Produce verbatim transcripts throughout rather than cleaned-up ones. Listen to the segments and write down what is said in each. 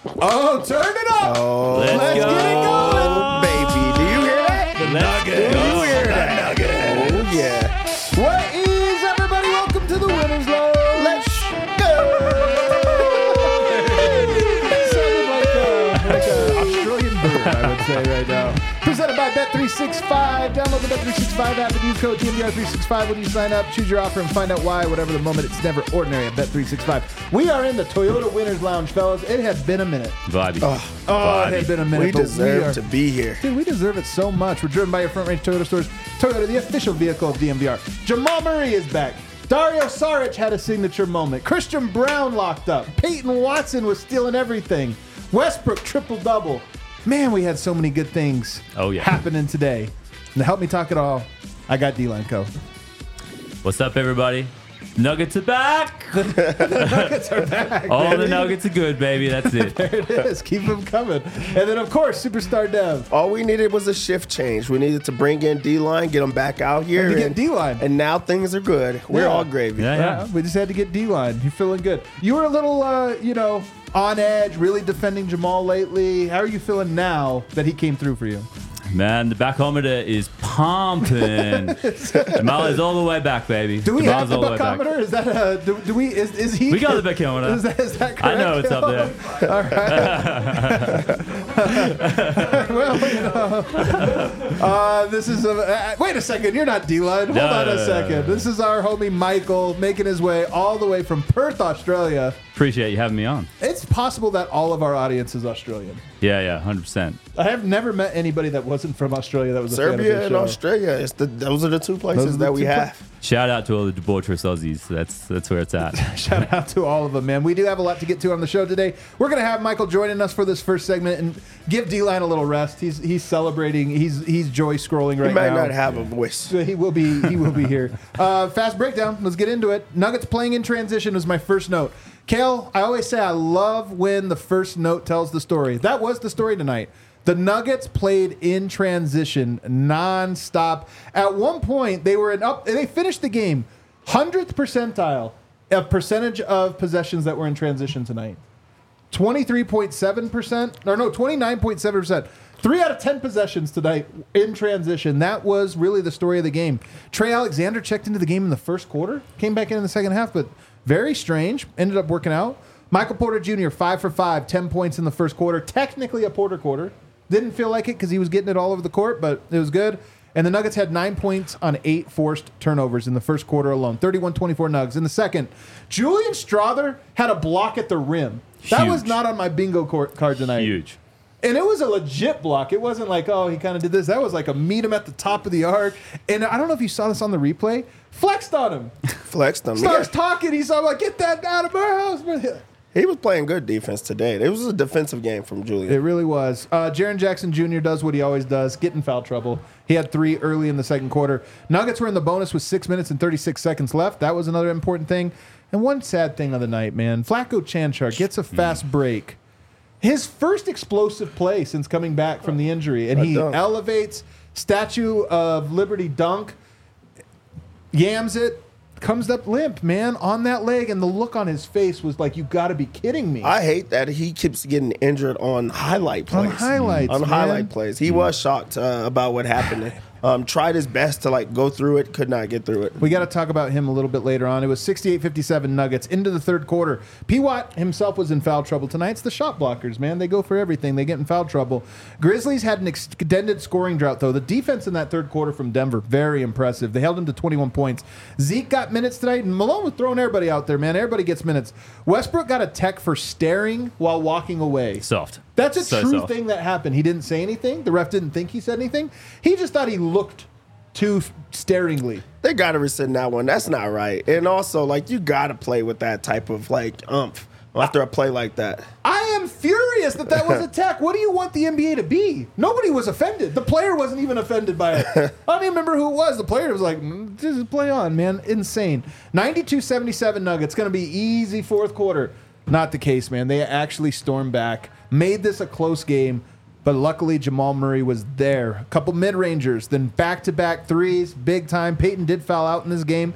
Oh, turn it up. Oh, Let's, Let's go. get it going. baby. Do you hear that? The Nuggets. Do you hear that? Oh, yeah. What is everybody? Welcome to the Winners Lounge. Let's go. Sounded like a, like a Australian bird, I would say right now. Presented by Bet three sixty-five. Download the Bet three sixty-five app and use code D M V R three sixty-five when you sign up. Choose your offer and find out why. Whatever the moment, it's never ordinary at Bet three sixty-five. We are in the Toyota Winners Lounge, fellas. It has been a minute. Vibey. Oh, Oh, it has been a minute. we but deserve we are, to be here. Dude, we deserve it so much. We're driven by your front range Toyota stores. Toyota, the official vehicle of D M V R. Jamal Murray is back. Dario Saric had a signature moment. Christian Brown locked up. Peyton Watson was stealing everything. Westbrook triple-double. Man, we had so many good things Oh, yeah. happening today. And to help me talk it all, I got D-Line Co. What's up, everybody? Nuggets are back. Nuggets are back. All the baby. Nuggets are good, baby. That's it. There it is. Keep them coming. And then, of course, Superstar Dev. All we needed was a shift change. We needed to bring in D-Line, get them back out here. And to get D-Line. And now things are good. We're Yeah. all gravy. Yeah, Yeah, we just had to get D-Line. You're feeling good. You were a little, uh, you know, on edge, really defending Jamal lately. How are you feeling now that he came through for you? Man, the backhometer is pumping. Jamal is all the way back, baby. Do we Jamal's have the all way back. backhometer? Is that uh do, do we is, is he? We got the backhometer. Is that, is that correct? I know it's up there. All right. Well, you know, uh, this is a. Uh, wait a second. You're not D-Line. Hold No, on no, a no, second. no. This is our homie Michael making his way all the way from Perth, Australia. Appreciate you having me on. It's possible that all of our audience is Australian. Yeah, yeah, one hundred percent. I have never met anybody that wasn't from Australia that was a fan of Serbia this and show. Australia. It's the, those are the two Those places are the that we two have. Shout out to all the debaucherous Aussies. That's that's where it's at. Shout out to all of them, man. We do have a lot to get to on the show today. We're going to have Michael joining us for this first segment and give D-Line a little rest. He's he's celebrating. He's he's joy scrolling right He might now. not have a voice. He will be. He will be here. Uh, fast breakdown. Let's get into it. Nuggets playing in transition was my first note. Kale, I always say I love when the first note tells the story. That was the story tonight. The Nuggets played in transition nonstop. At one point, they were in up. They finished the game hundredth percentile of percentage of possessions that were in transition tonight. twenty-three point seven percent, or no, twenty-nine point seven percent. Three out of ten possessions tonight in transition. That was really the story of the game. Trey Alexander checked into the game in the first quarter, came back in in the second half, but very strange. Ended up working out. Michael Porter Junior, five for five, ten points in the first quarter. Technically a Porter quarter. Didn't feel like it because he was getting it all over the court, but it was good. And the Nuggets had nine points on eight forced turnovers in the first quarter alone. thirty-one twenty-four Nugs. In the second, Julian Strother had a block at the rim. That Huge. was not on my bingo card tonight. Huge. And it was a legit block. It wasn't like, oh, he kind of did this. That was like a meet him at the top of the arc. And I don't know if you saw this on the replay. Flexed on him. Flexed them. Starts Yeah. talking. He's like, get that out of our house. He was playing good defense today. It was a defensive game from It Julian. really was. Uh, Jaren Jackson Junior does what he always does, get in foul trouble. He had three early in the second quarter. Nuggets were in the bonus with six minutes and thirty-six seconds left. That was another important thing. And one sad thing of the night, man. Flacco Chanchar gets a fast break. His first explosive play since coming back from the injury. And A he dunk. elevates, Statue of Liberty dunk, yams it, comes up limp, man, on that leg. And the look on his face was like, you got to be kidding me. I hate that he keeps getting injured on highlight plays. On highlights, On man. highlight plays. He was shocked uh, about what happened. Um, tried his best to like go through it, could not get through it. We got to talk about him a little bit later on. It was sixty-eight fifty-seven Nuggets into the third quarter. P. Watt himself was in foul trouble tonight. It's the shot blockers, man. They go for everything. They get in foul trouble. Grizzlies had an extended scoring drought, though. The defense in that third quarter from Denver, very impressive. They held him to twenty-one points. Zeke got minutes tonight, and Malone was throwing everybody out there, man. Everybody gets minutes. Westbrook got a tech for staring while walking away. Soft. That's a So true soft. thing that happened. He didn't say anything. The ref didn't think he said anything. He just thought he looked too staringly. They got to rescind that one. That's not right. And also, like, you got to play with that type of like umph after a play like that. I am furious that that was a tech. What do you want the N B A to be? Nobody was offended. The player wasn't even offended by it. I don't even remember who it was. The player was like, mm, just play on, man. Insane. ninety-two seventy-seven Nuggets. Going to be easy fourth quarter. Not the case, man. They actually stormed back, made this a close game, but luckily Jamal Murray was there. A couple mid-rangers, then back-to-back threes, big time. Peyton did foul out in this game.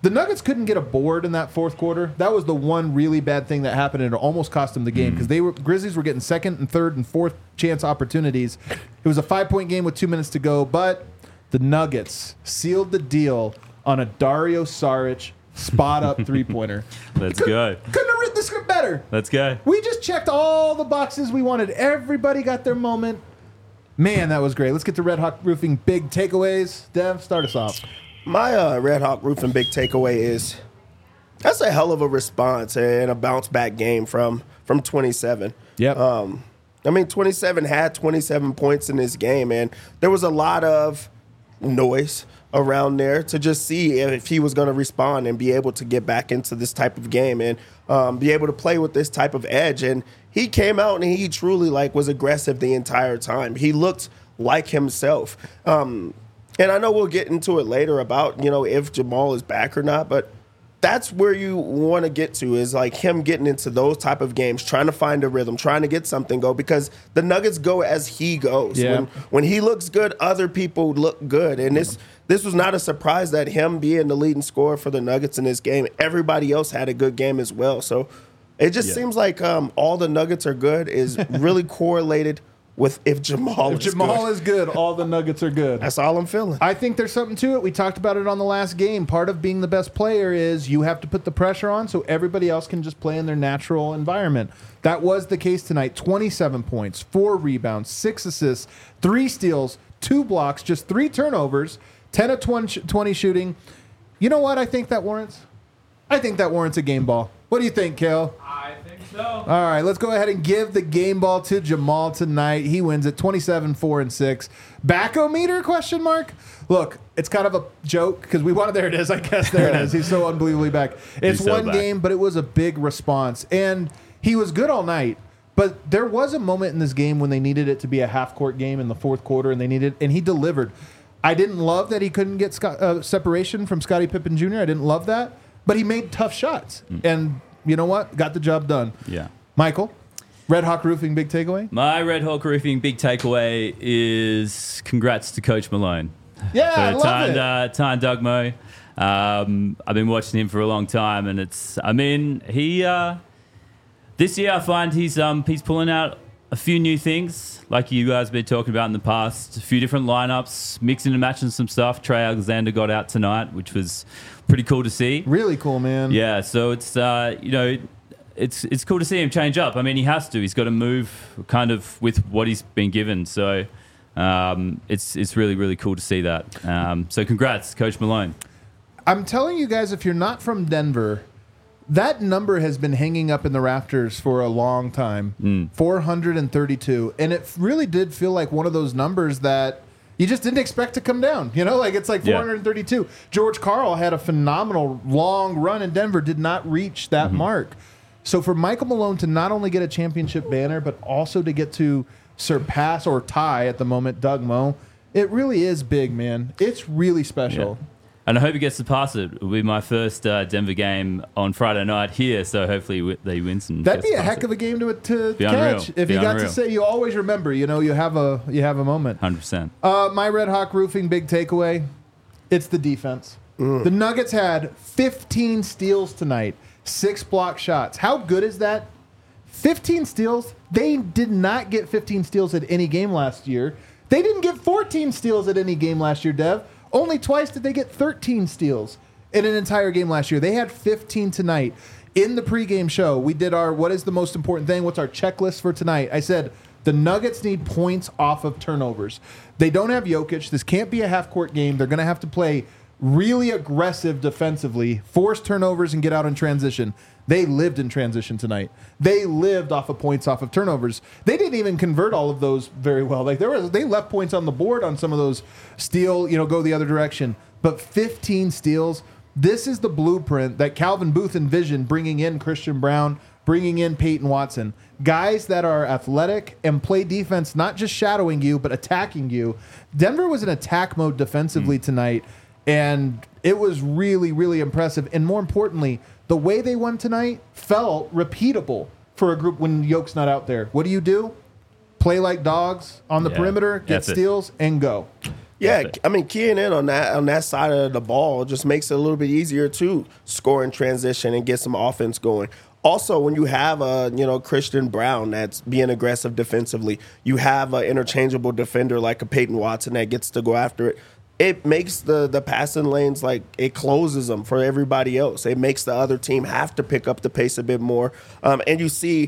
The Nuggets couldn't get a board in that fourth quarter. That was the one really bad thing that happened, and it almost cost them the game because they were Grizzlies were getting second and third and fourth chance opportunities. It was a five-point game with two minutes to go, but the Nuggets sealed the deal on a Dario Saric spot-up three-pointer. Let's Could, go. Couldn't have written the script better. Let's go. We just checked all the boxes we wanted. Everybody got their moment. Man, that was great. Let's get to Red Hawk Roofing big takeaways. Dev, start us off. My uh, Red Hawk Roofing big takeaway is that's a hell of a response and a bounce back game from from twenty-seven. Yep. Um, I mean, twenty-seven had twenty-seven points in this game, and there was a lot of noise around there to just see if he was going to respond and be able to get back into this type of game and um, be able to play with this type of edge. And he came out and he truly like was aggressive the entire time. He looked like himself. Um, and I know we'll get into it later about, you know, if Jamal is back or not, but that's where you want to get to is like him getting into those type of games, trying to find a rhythm, trying to get something go because the Nuggets go as he goes. Yeah. When, when he looks good, other people look good. And this this was not a surprise that him being the leading scorer for the Nuggets in this game, everybody else had a good game as well. So it just Yeah. seems like um, all the Nuggets are good is really correlated with if Jamal If is Jamal good. is good, all the Nuggets are good. That's all I'm feeling. I think there's something to it. We talked about it on the last game. Part of being the best player is you have to put the pressure on so everybody else can just play in their natural environment. That was the case tonight. twenty-seven points, four rebounds, six assists, three steals, two blocks, just three turnovers, ten of twenty shooting. You know what I think that warrants? I think that warrants a game ball. What do you think, Kale? I think so. All right, let's go ahead and give the game ball to Jamal tonight. He wins it twenty-seven, four, and six. Back-o-meter, question mark? Look, it's kind of a joke because we wanted, there it is, I guess, there it is. He's so unbelievably back. It's He's so one back. game, but it was a big response. And he was good all night, but there was a moment in this game when they needed it to be a half-court game in the fourth quarter, and they needed, and he delivered. I didn't love that he couldn't get Scott, uh, separation from Scottie Pippen Junior I didn't love that, but he made tough shots. Mm. And you know what? Got the job done. Yeah. Michael, Red Hawk Roofing, big takeaway? My Red Hawk Roofing big takeaway is congrats to Coach Malone. Yeah, I For love Tyne, it. Uh, Tyne Doug Mo. Um, I've been watching him for a long time, and it's, I mean, he, uh, this year I find he's, um, he's pulling out a few new things, like you guys have been talking about in the past, a few different lineups, mixing and matching some stuff. Trey Alexander got out tonight, which was pretty cool to see. Really cool, man. Yeah, so it's, uh, you know, it's it's cool to see him change up. I mean, he has to. He's got to move kind of with what he's been given. So um, it's it's really, really cool to see that. Um, so congrats, Coach Malone. I'm telling you guys, if you're not from Denver, that number has been hanging up in the rafters for a long time. Mm. four hundred thirty-two. And it really did feel like one of those numbers that you just didn't expect to come down. You know, like it's like Yeah. four hundred thirty-two. George Karl had a phenomenal long run in Denver, did not reach that Mm-hmm. mark. So for Michael Malone to not only get a championship banner, but also to get to surpass or tie at the moment Doug Mo, it really is big, man. It's really special. Yeah. And I hope he gets to pass it. It'll be my first uh, Denver game on Friday night here, so hopefully w- they win some. That'd be a heck of a game to, to Be catch. unreal. If Be you got unreal. to say, you always remember, you know, you have a you have a moment. one hundred percent. Uh, my Red Hawk Roofing big takeaway, it's the defense. The Nuggets had fifteen steals tonight, six block shots. How good is that? fifteen steals. They did not get fifteen steals at any game last year. They didn't get fourteen steals at any game last year, Dev. Only twice did they get thirteen steals in an entire game last year. They had fifteen tonight. In the pregame show, we did our what is the most important thing? What's our checklist for tonight? I said the Nuggets need points off of turnovers. They don't have Jokic. This can't be a half-court game. They're going to have to play really aggressive defensively, force turnovers, and get out in transition. They lived in transition tonight. They lived off of points off of turnovers. They didn't even convert all of those very well. Like there was, they left points on the board on some of those steal, you know, go the other direction. But fifteen steals. This is the blueprint that Calvin Booth envisioned, bringing in Christian Brown, bringing in Peyton Watson. Guys that are athletic and play defense, not just shadowing you, but attacking you. Denver was in attack mode defensively Mm. tonight, and it was really, really impressive. And more importantly, the way they won tonight felt repeatable for a group when Yoke's not out there. What do you do? Play like dogs on the Yeah. perimeter, get Effort. steals, and go. Yeah, effort. I mean, keying in on that on that side of the ball just makes it a little bit easier to score in transition and get some offense going. Also, when you have a you know Christian Brown that's being aggressive defensively, you have an interchangeable defender like a Peyton Watson that gets to go after it. It makes the the passing lanes like it closes them for everybody else. It makes the other team have to pick up the pace a bit more. Um, and you see,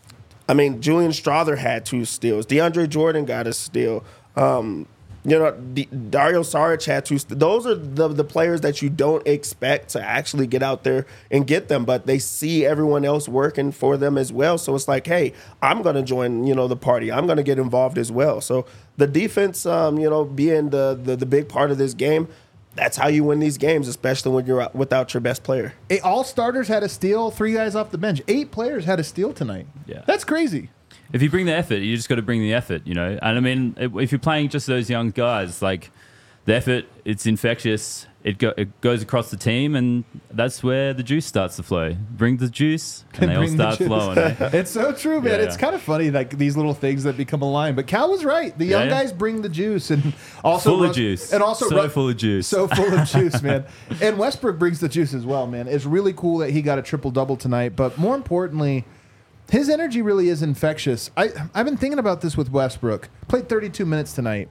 I mean, Julian Strother had two steals. DeAndre Jordan got a steal. Um, You know, D- Dario Saric had two. St- those are the the players that you don't expect to actually get out there and get them, but they see everyone else working for them as well. So it's like, hey, I'm going to join, you know, the party. I'm going to get involved as well. So the defense, um, you know, being the, the the big part of this game, that's how you win these games, especially when you're out without your best player. Hey, all starters had a steal, three guys off the bench. Eight players had a steal tonight. Yeah. That's crazy. If you bring the effort, you just got to bring the effort, you know. And I mean, if you're playing just those young guys, like the effort, it's infectious. It, go, it goes across the team, and that's where the juice starts to flow. Bring the juice, and they all Bring the start juice. flowing. Eh? It's so true, man. Yeah, It's yeah. kind of funny, like these little things that become a line. But Cal was right. The young Yeah, yeah. guys bring the juice, and also Full of Russ- juice. and also So Ru- full of juice. so full of juice, man. And Westbrook brings the juice as well, man. It's really cool that he got a triple double tonight. But more importantly, his energy really is infectious. I, I've been thinking about this with Westbrook. Played thirty-two minutes tonight.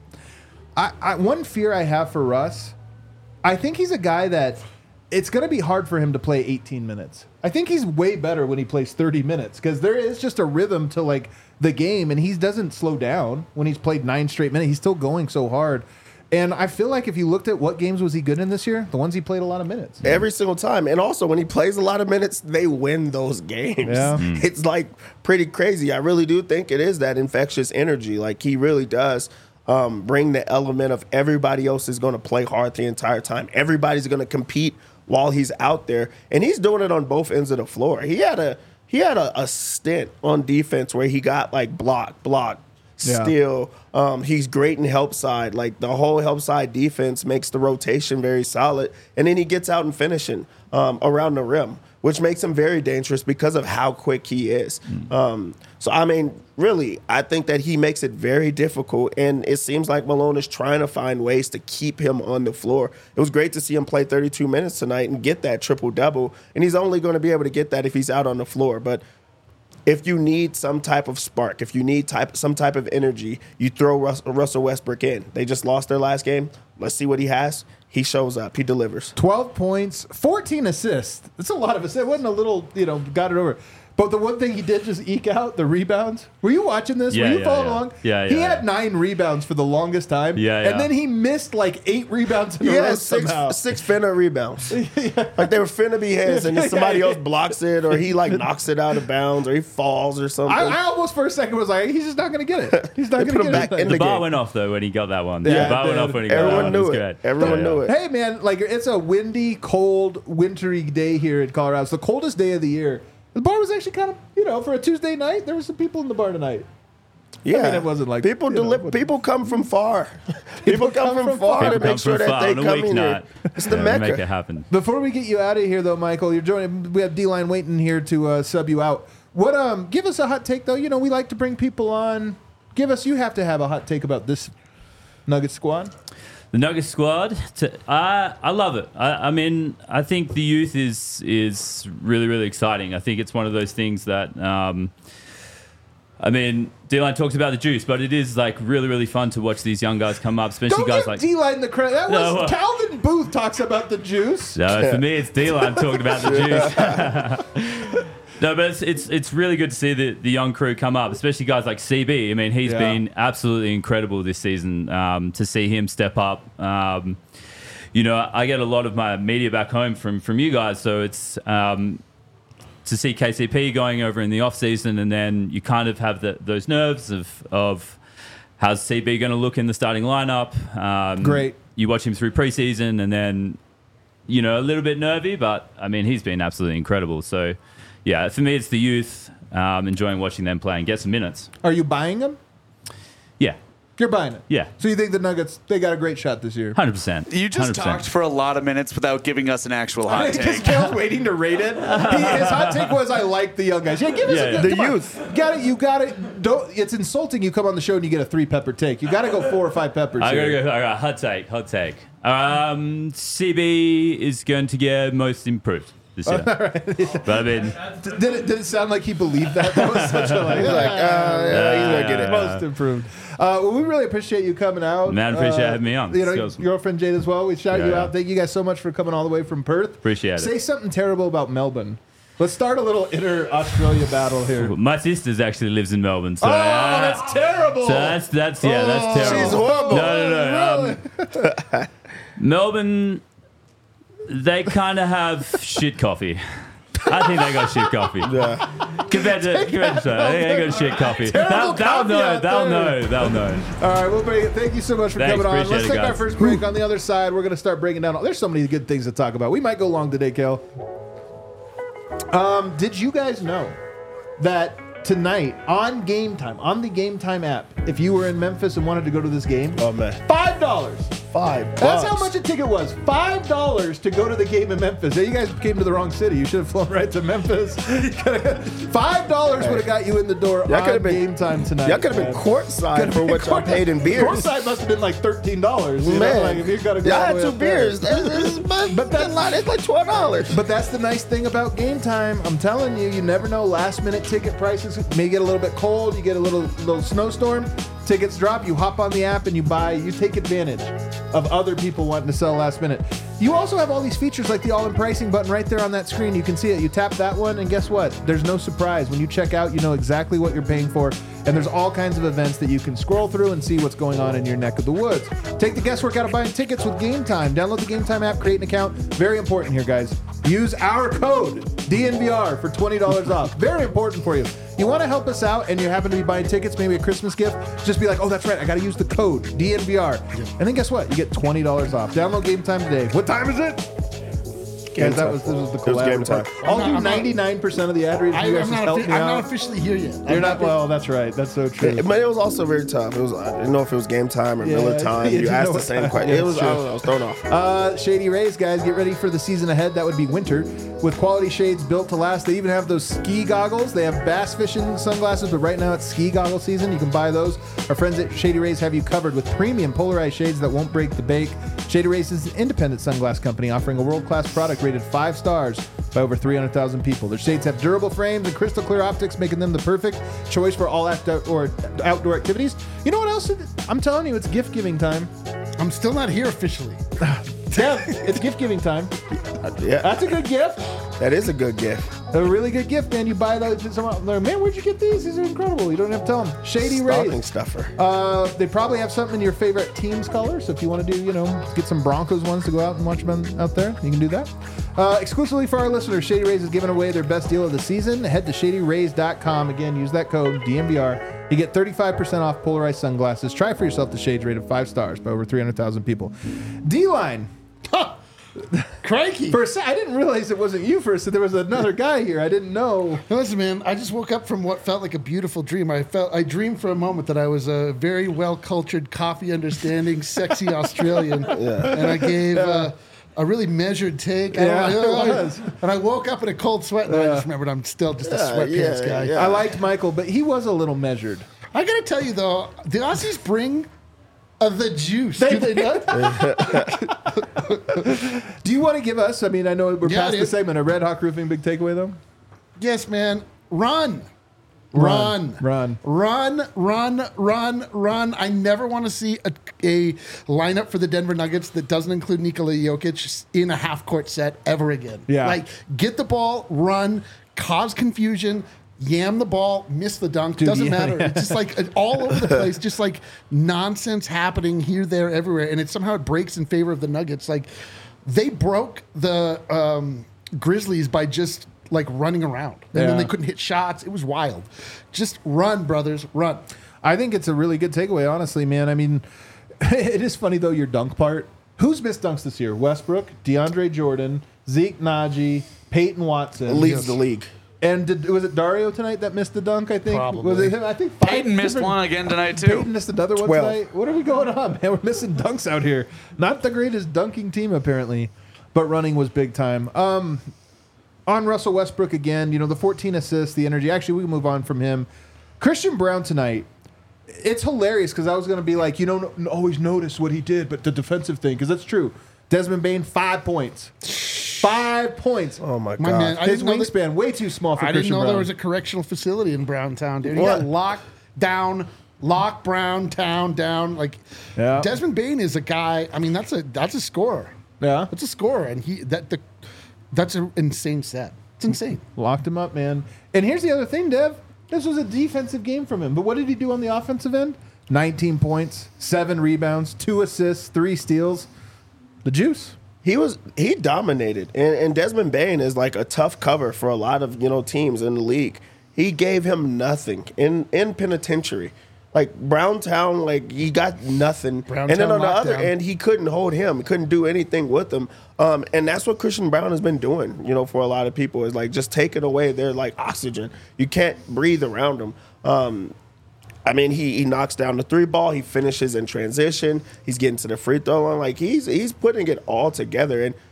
I, I one fear I have for Russ, I think he's a guy that it's going to be hard for him to play eighteen minutes. I think he's way better when he plays thirty minutes because there is just a rhythm to like the game, and he doesn't slow down when he's played nine straight minutes. He's still going so hard. And I feel like if you looked at what games was he good in this year, the ones he played a lot of minutes. Every single time. And also, when he plays a lot of minutes, they win those games. Yeah. Mm. It's like pretty crazy. I really do think it is that infectious energy. Like, he really does um, bring the element of everybody else is going to play hard the entire time. Everybody's going to compete while he's out there. And he's doing it on both ends of the floor. He had a he had a, a stint on defense where he got like block, block, Yeah. steal. Um, he's great in help side. Like the whole help side defense makes the rotation very solid. And then he gets out and finishing um, around the rim, which makes him very dangerous because of how quick he is. Mm. Um, so, I mean, really, I think that he makes it very difficult. And it seems like Malone is trying to find ways to keep him on the floor. It was great to see him play thirty-two minutes tonight and get that triple-double. And he's only going to be able to get that if he's out on the floor. But if you need some type of spark, if you need type some type of energy, you throw Rus- Russell Westbrook in. They just lost their last game. Let's see what he has. He shows up. He delivers. twelve points, fourteen assists. That's a lot of assists. It wasn't a little, you know, got it over. But the one thing he did just eke out, the rebounds. Were you watching this? Yeah, Were you yeah, following yeah. along? Yeah, He yeah, had yeah. nine rebounds for the longest time. Yeah, yeah. And then he missed like eight rebounds in a row Yeah, six, somehow. six finna rebounds. Like they were finna be his, and then somebody Yeah, yeah. else blocks it, or he like knocks it out of bounds, or he falls or something. I, I almost for a second was like, he's just not going to get it. He's not They going put to him get back it. in The the bar game. went off though when he got that one. Yeah, the bar it went did. off when he got that Everyone one. knew It was it. great. Everyone Yeah, knew yeah. it. Hey, man, like it's a windy, cold, wintry day here in Colorado. It's the coldest day of the year. The bar was actually kind of, you know, for a Tuesday night, there were some people in the bar tonight. Yeah, mean, it wasn't like, people you know, deli- what- people come from far. People, come, from, far People to come make sure from that far they on a come in weeknight. here. It's the Yeah, Mecca. Make it happen. Before we get you out of here, though, Michael, you're joining. We have D-Line waiting here to uh, sub you out. What? Um, give us a hot take, though. You know, we like to bring people on. Give us. You have to have a hot take about this Nugget squad. The Nuggets squad, to, I I love it. I, I mean, I think the youth is is really really exciting. I think it's one of those things that, um, I mean, D-Line talks about the juice, but it is like really really fun to watch these young guys come up, especially Don't guys give like. D-Line the credit. That was No, uh, Calvin Booth talks about the juice. No, for me, it's D-Line talking about the juice. No, but it's, it's it's really good to see the, the young crew come up, especially guys like C B. I mean, he's Yeah. been absolutely incredible this season. Um, to see him step up, um, you know, I get a lot of my media back home from from you guys, so it's um, to see K C P going over in the off season, and then you kind of have the, those nerves of of how's C B going to look in the starting lineup. Um, Great. You watch him through preseason, and then you know a little bit nervy, but I mean he's been absolutely incredible. So. Yeah, for me, it's the youth. Um, enjoying watching them play and get some minutes. Are you buying them? Yeah. You're buying it. Yeah. So you think the Nuggets, they got a great shot this year? one hundred percent. You just one hundred percent. talked for a lot of minutes without giving us an actual hot Because take. Kale's waiting to rate it. He, his hot take was, "I like the young guys." Yeah, give us Yeah, a yeah. good, The come on. youth. Got it. You got it. Don't. It's insulting. You come on the show and you get a three pepper take. You got to go four or five peppers. I gotta here. go. All right, hot take. Hot take. Um, C B is going to get most improved this year. But I mean, Did it, did it sound like he believed that? That was such a like, He's like, uh, yeah, he's gonna get it. most improved. Uh, well, we really appreciate you coming out. Man, appreciate uh, having me on. You know, It's your awesome. girlfriend Jade as well. We shout Yeah, you yeah. out. Thank you guys so much for coming all the way from Perth. Appreciate it. Say something terrible about Melbourne. Let's start a little inter-Australia battle here. my sister's actually lives in Melbourne, so Oh, uh, that's terrible. So that's that's yeah, that's Oh, terrible. She's horrible. No, no, no. Um, Melbourne, they kind of have shit coffee. I think they got shit coffee. Yeah. Compared to, compared to Australia, they got shit coffee. They'll, they'll coffee know. out They'll there. know. They'll know. All right, we'll bring it. Thank you so much for Thanks, coming on. appreciate Let's it, take our guys. first break. On the other side, we're going to start breaking down. There's so many good things to talk about. We might go long today, Kel. Um, did you guys know that tonight on Game Time, on the Game Time app, if you were in Memphis and wanted to go to this game, Oh man. five dollars. Five. That's bucks. how much a ticket was. Five dollars to go to the game in Memphis. Hey, you guys came to the wrong city. You should have flown right to Memphis. Five dollars would have got you in the door Y'all on could've been- Game Time tonight. Y'all could have been man. courtside for what y'all paid in beers. Courtside must have been like thirteen dollars. You know? Man, Like if you got to go y'all all had the way two up there. beers. That's, that's, but But that line is like twelve dollars. But that's the nice thing about Game Time. I'm telling you, you never know. Last minute ticket prices may get a little bit cold. You get a little little snowstorm. Tickets drop. You hop on the app and you buy. You take advantage of other people wanting to sell last minute. You also have all these features like the all-in pricing button right there on that screen. You can see it. You tap that one, and guess what? There's no surprise. When you check out, you know exactly what you're paying for. And there's all kinds of events that you can scroll through and see what's going on in your neck of the woods. Take the guesswork out of buying tickets with Game Time. Download the Game Time app, create an account. Very important here, guys. Use our code D N V R for twenty dollars off. Very important for you. You want to help us out and you happen to be buying tickets, maybe a Christmas gift, just be like, oh, that's right, I got to use the code D N V R. And then guess what? You get twenty dollars off. Download Game Time today. What time is it? Game Guys, that time. was, this was the It was game collaborative time. part. I'll I'm not- do I'm not- ninety-nine percent of the ad reads. I, You guys I'm, just not, help offi- me I'm out. not officially here yet. You're I'm not, well, that's right. That's so true. It, but it was also very tough. It was I didn't know if it was game time or Yeah, Miller time. you You didn't asked know the what same time. question. Yeah, It was it's I true. don't know, I was thrown off. Uh, Shady Rays, guys, get ready for the season ahead. That would be winter. With quality shades built to last. They even have those ski goggles. They have bass fishing sunglasses, but right now it's ski goggle season. You can buy those. Our friends at Shady Rays have you covered with premium polarized shades that won't break the bake. Shady Rays is an independent sunglass company offering a world-class product rated five stars by over three hundred thousand people. Their shades have durable frames and crystal clear optics, making them the perfect choice for all outdoor, outdoor activities. You know what else? I'm telling you, it's gift-giving time. I'm still not here officially. Yeah, it's gift-giving time. Yeah, That's a good gift. that is a good gift. A really good gift, man. You buy those. Someone, like, man, where'd you get these? These are incredible. You don't have to tell them. Shady Stocking Rays. stuffer. Uh, they probably have something in your favorite team's color. So if you want to do, you know, get some Broncos ones to go out and watch them out there, you can do that. Uh, exclusively for our listeners, Shady Rays is giving away their best deal of the season. Head to shady rays dot com. Again, use that code D M V R. You get thirty-five percent off polarized sunglasses. Try for yourself the shades rated five stars by over three hundred thousand people. D-Line. Crikey. For a sec, I didn't realize it wasn't you for a sec. There was another guy here. I didn't know. Listen, man, I just woke up from what felt like a beautiful dream. I felt I dreamed for a moment that I was a very well-cultured, coffee-understanding, sexy Australian, and I gave uh, a really measured take. I Yeah, don't know, it was. And I woke up in a cold sweat, and I just remembered I'm still just a Yeah, sweatpants yeah, guy. yeah. I liked Michael, but he was a little measured. I gotta tell you though, the Aussies bring uh, the juice. They- do they not? Do you want to give us? I mean, I know we're Yeah, past the dude. segment. A Red Hawk Roofing big takeaway though. Yes, man. Run. Run. Run. Run, run, run, run. I never want to see a, a lineup for the Denver Nuggets that doesn't include Nikola Jokic in a half court set ever again. Yeah. Like, get the ball, run, cause confusion, yam the ball, miss the dunk. Dude, doesn't yeah, matter. yeah. It's just like uh, all over the place, just like nonsense happening here, there, everywhere. And it somehow it breaks in favor of the Nuggets. Like, they broke the um, Grizzlies by just like running around, and Yeah. then they couldn't hit shots. It was wild. Just run, brothers, run. I think it's a really good takeaway, honestly, man. I mean, it is funny though, your dunk part. Who's missed dunks this year? Westbrook, DeAndre Jordan, Zeke Naji, Peyton Watson. Leads the league. And did, was it Dario tonight that missed the dunk, I think? Probably. Was it him? I think five Peyton missed different- one again tonight, too. Peyton missed another one twelve. tonight. What are we going on, man? We're missing dunks out here. Not the greatest dunking team, apparently, but running was big time. Um, on Russell Westbrook again, you know, the fourteen assists, the energy. Actually, we can move on from him. Christian Brown tonight, it's hilarious because I was going to be like, you don't no, always notice what he did, but the defensive thing, because that's true. Desmond Bain, five points. Five points. Oh, my God. My man, I His didn't know that- wingspan, way too small for I didn't Christian know Brown. there was a correctional facility in Browntown, dude. He What? got locked down, lock Brown town down. Like Yeah. Desmond Bain is a guy. I mean, that's a that's a scorer. Yeah. That's a scorer, and he that the that's an insane set. It's insane. Locked him up, man. And here's the other thing, Dev. This was a defensive game from him. But what did he do on the offensive end? nineteen points, seven rebounds, two assists, three steals. The juice. He was he dominated, and, and Desmond Bain is like a tough cover for a lot of you know teams in the league. He gave him nothing in in penitentiary, like Browntown, like he got nothing. Browntown and then on the other lockdown. end, he couldn't hold him, he couldn't do anything with him. Um, and that's what Christian Brown has been doing, you know, for a lot of people is like just taking away their like oxygen. You can't breathe around him. Um, I mean, he, he knocks down the three ball. He finishes in transition. He's getting to the free throw line. Like he's he's putting it all together. And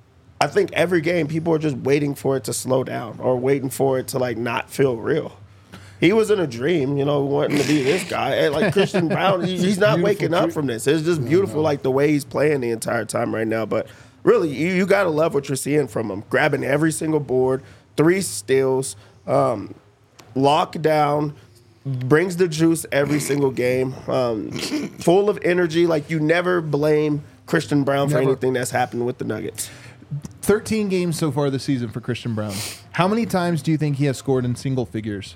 I think every game people are just waiting for it to slow down or waiting for it to like not feel real. He was in a dream, you know, wanting to be this guy. And like Christian Brown, he, he's not Beautiful waking up dream. from this. It's just beautiful, like the way he's playing the entire time right now. But really, you, you got to love what you're seeing from him. Grabbing every single board, three steals, um, lockdown. Brings the juice every single game. Um, full of energy. Like you never blame Christian Brown for Never. anything that's happened with the Nuggets. thirteen games so far this season for Christian Brown. How many times do you think he has scored in single figures?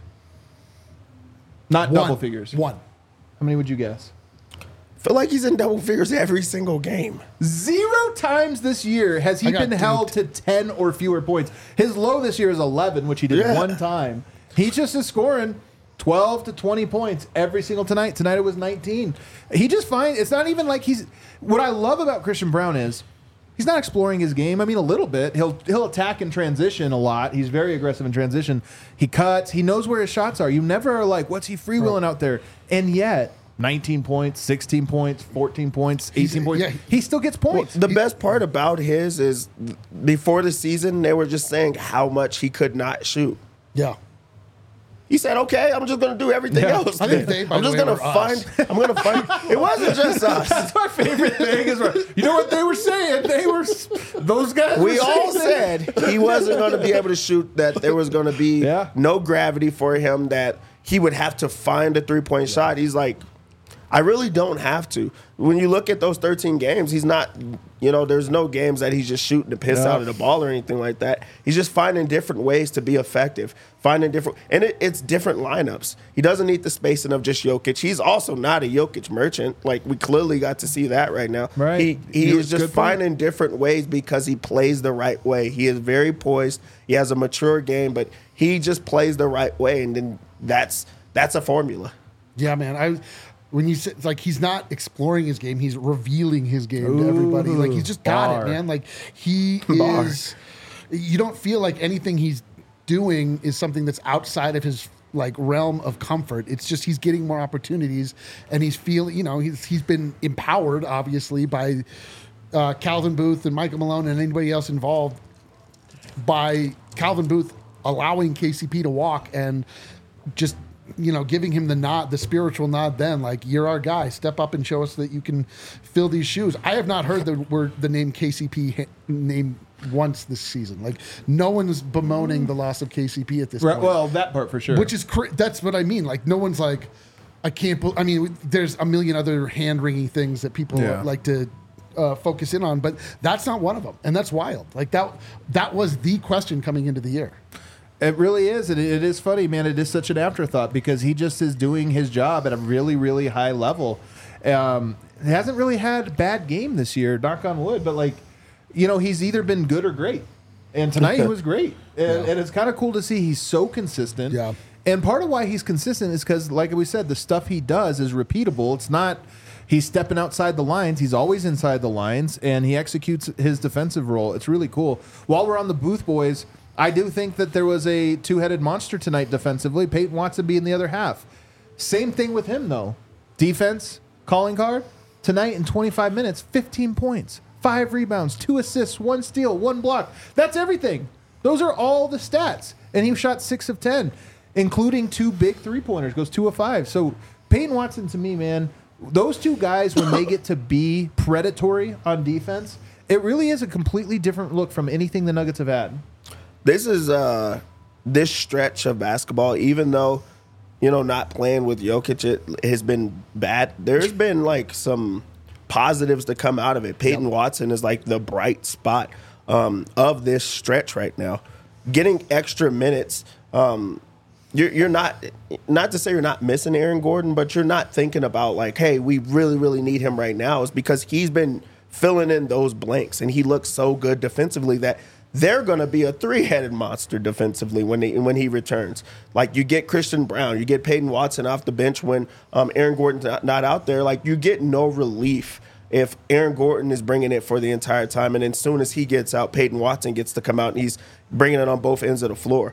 Not One. double figures. One. How many would you guess? Feel like he's in double figures every single game. Zero times this year has he I got been held to ten or fewer points. His low this year is eleven, which he did Yeah. one time. He just is scoring twelve to twenty points every single tonight. Tonight it was nineteen. He just finds it's not even like he's. What I love about Christian Brown is he's not exploring his game. I mean, a little bit. He'll he'll attack in transition a lot. He's very aggressive in transition. He cuts. He knows where his shots are. You never are like, what's he freewheeling out there? And yet, nineteen points, sixteen points, fourteen points, eighteen He's- points. yeah. He still gets points. The best part about his is th- before the season, they were just saying how much he could not shoot. Yeah. He said, "Okay, I'm just going to do everything Yeah. else. I think then. they, by I'm the just way, going to were find. us. I'm going to find. It wasn't just us. That's my favorite thing. Is where, you know what they were saying? They were those guys. We were all saying said he wasn't going to be able to shoot, that there was going to be Yeah. no gravity for him, that he would have to find a three-point shot. He's like, I really don't have to. When you look at those thirteen games, he's not, you know, there's no games that he's just shooting the piss Yeah. out of the ball or anything like that. He's just finding different ways to be effective, finding different, and it, it's different lineups. He doesn't need the spacing of just Jokic. He's also not a Jokic merchant. Like, we clearly got to see that right now. Right. He, he He is was just good point. finding different ways because he plays the right way. He is very poised. He has a mature game, but he just plays the right way, and then that's that's a formula. Yeah, man. I when you say like he's not exploring his game, he's revealing his game to everybody. Like he's just got bar. it, man. Like he Bar. is. You don't feel like anything he's doing is something that's outside of his like realm of comfort. It's just he's getting more opportunities, and he's feeling. You know, he's he's been empowered obviously by uh, Calvin Booth and Michael Malone and anybody else involved by Calvin Booth allowing K C P to walk and just, you know, giving him the nod, the spiritual nod then, like, you're our guy. Step up and show us that you can fill these shoes. I have not heard the word, the name K C P ha- name once this season. Like, no one's bemoaning the loss of K C P at this Right, point. well, that part for sure. Which is, cra- that's what I mean. Like, no one's like, I can't, bel I mean, there's a million other hand-wringing things that people Yeah. like to uh, focus in on, but that's not one of them. And that's wild. Like, that, that was the question coming into the year. It really is. And it is funny, man. It is such an afterthought because he just is doing his job at a really, really high level. Um, he hasn't really had a bad game this year, knock on wood, but like, you know, he's either been good or great. And tonight he was great. And, Yeah. and it's kind of cool to see he's so consistent. Yeah. And part of why he's consistent is because, like we said, the stuff he does is repeatable. It's not he's stepping outside the lines. He's always inside the lines, and he executes his defensive role. It's really cool. While we're on the Booth boys, I do think that there was a two-headed monster tonight defensively. Peyton Watson being the other half. Same thing with him, though. Defense, calling card. Tonight in twenty-five minutes, fifteen points, five rebounds, two assists, one steal, one block. That's everything. Those are all the stats. And he shot six of ten, including two big three-pointers. Goes two of five. So Peyton Watson, to me, man, those two guys, when they get to be predatory on defense, it really is a completely different look from anything the Nuggets have had. This is uh, this stretch of basketball, even though, you know, not playing with Jokic it has been bad. There's been like some positives to come out of it. Peyton yep. Watson is like the bright spot um, of this stretch right now. Getting extra minutes, um, you're, you're not, not to say you're not missing Aaron Gordon, but you're not thinking about like, hey, we really, really need him right now. It's because he's been filling in those blanks, and he looks so good defensively that they're going to be a three-headed monster defensively when he, when he returns. Like, you get Christian Brown, you get Peyton Watson off the bench when um, Aaron Gordon's not, not out there. Like, you get no relief if Aaron Gordon is bringing it for the entire time, and then as soon as he gets out, Peyton Watson gets to come out, and he's bringing it on both ends of the floor.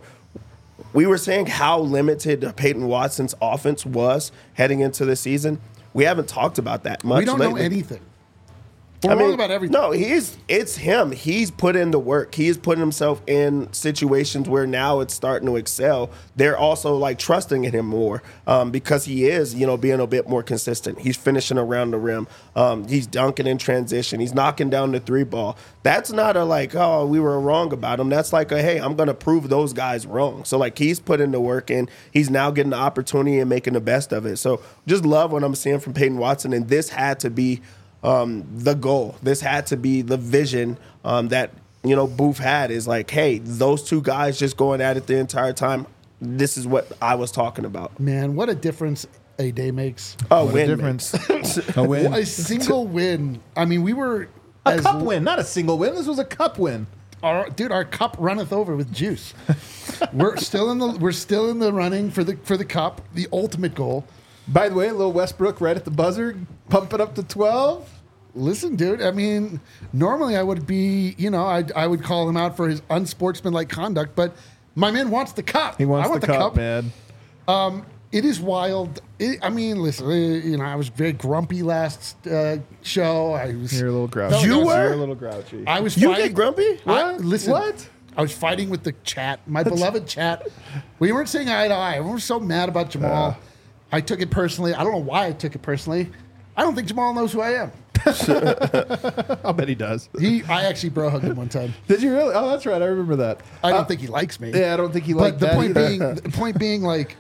We were saying how limited Peyton Watson's offense was heading into the season. We haven't talked about that much We don't lately. know anything. We're I mean, wrong about everything. No, he's it's him. He's put in the work. He's putting himself in situations where now it's starting to excel. They're also like trusting in him more um, because he is, you know, being a bit more consistent. He's finishing around the rim. Um, he's dunking in transition. He's knocking down the three ball. That's not a like, oh, we were wrong about him. That's like a, hey, I'm going to prove those guys wrong. So like he's putting the work in. He's now getting the opportunity and making the best of it. So just love what I'm seeing from Peyton Watson. And this had to be Um, the goal. This had to be the vision um, that, you know, Booth had is like, hey, those two guys just going at it the entire time. This is what I was talking about. Man, what a difference a day makes. Oh, What win a difference. makes. A win. A single win. I mean, we were A as- cup win, not a single win. This was a cup win. Our, dude, our cup runneth over with juice. we're still in the we're still in the running for the for the cup, the ultimate goal. By the way, a little Westbrook right at the buzzer, pump it up to twelve. Listen, dude, I mean, normally I would be, you know, I I would call him out for his unsportsmanlike conduct, but my man wants the cup. He wants I want the, the, cup, man. It is wild. It, I mean, listen, uh, you know, I was very grumpy last uh, show. I was. You're a little grouchy. You were? You're a little grouchy. I was. You fighting, get grumpy? I, What? listen, What? I was fighting with the chat, my beloved chat. We weren't saying eye to eye. Everyone was so mad about Jamal. Uh. I took it personally. I don't know why I took it personally. I don't think Jamal knows who I am. I'll bet he does. He, I actually bro hugged him one time. Did you really? Oh, that's right. I remember that. I don't Uh, think he likes me. Yeah, I don't think he But liked the that point either. being, the point being, like,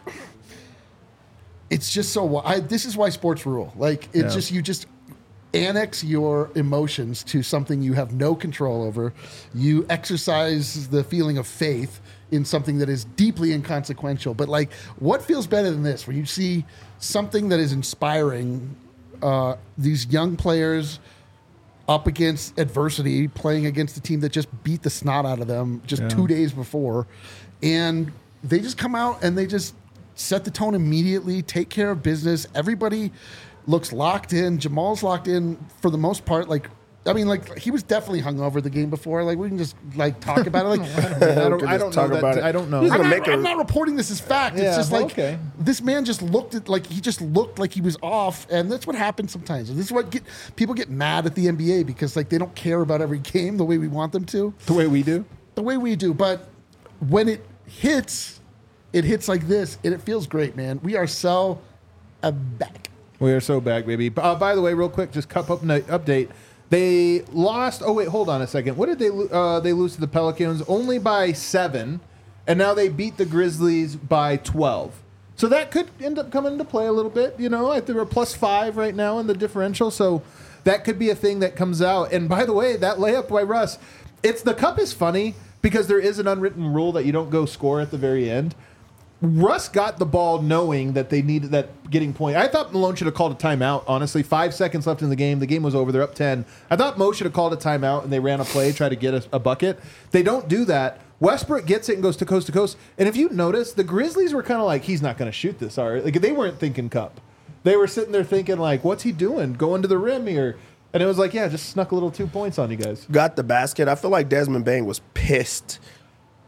it's just so. wi- I, this is why sports rule. Like, it's Yeah. just you just annex your emotions to something you have no control over. You exercise the feeling of faith in something that is deeply inconsequential. But like, what feels better than this? When you see something that is inspiring, uh, these young players up against adversity, playing against a team that just beat the snot out of them just Yeah. two days before, and they just come out and they just set the tone immediately, take care of business. Everybody looks locked in. Jamal's locked in for the most part. Like, I mean, like he was definitely hungover the game before. Like we can just like talk about it. Like I don't, Can I just don't talk know about that. it. I don't know. He's I'm gonna not, make a- I'm not reporting this as fact. It's Yeah, just well, like okay. this man just looked at like he just looked like he was off, and that's what happens sometimes. And this is what get people get mad at the N B A because like they don't care about every game the way we want them to, The way we do. the way we do. But when it hits, it hits like this, and it feels great, man. We are so uh, back. We are so back, baby. Uh, by the way, real quick, just cup up update. They lost. Oh wait, hold on a second. What did they lo- uh, they lose to the Pelicans? Only by seven, and now they beat the Grizzlies by twelve. So that could end up coming into play a little bit. You know, I think we're plus five right now in the differential, so that could be a thing that comes out. And by the way, that layup by Russ, it's the cup is funny because there is an unwritten rule that you don't go score at the very end. Russ got the ball knowing that they needed that getting point. I thought Malone should have called a timeout, honestly. Five seconds left in the game. The game was over. They're up ten. I thought Mo should have called a timeout, and they ran a play, try to get a, a bucket. They don't do that. Westbrook gets it and goes to coast to coast. And if you notice, the Grizzlies were kind of like, he's not going to shoot this, all right? Like, they weren't thinking cup. They were sitting there thinking, like, what's he doing? Going to the rim here. And it was like, yeah, just snuck a little two points on you guys. Got the basket. I feel like Desmond Bain was pissed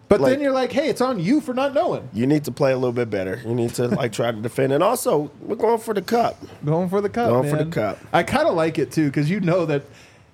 But Like- then you're like, hey, it's on you for not knowing. You need to play a little bit better. You need to like try to defend. And also, we're going for the cup. Going for the cup, Going for man. the cup. I kind of like it too because you know that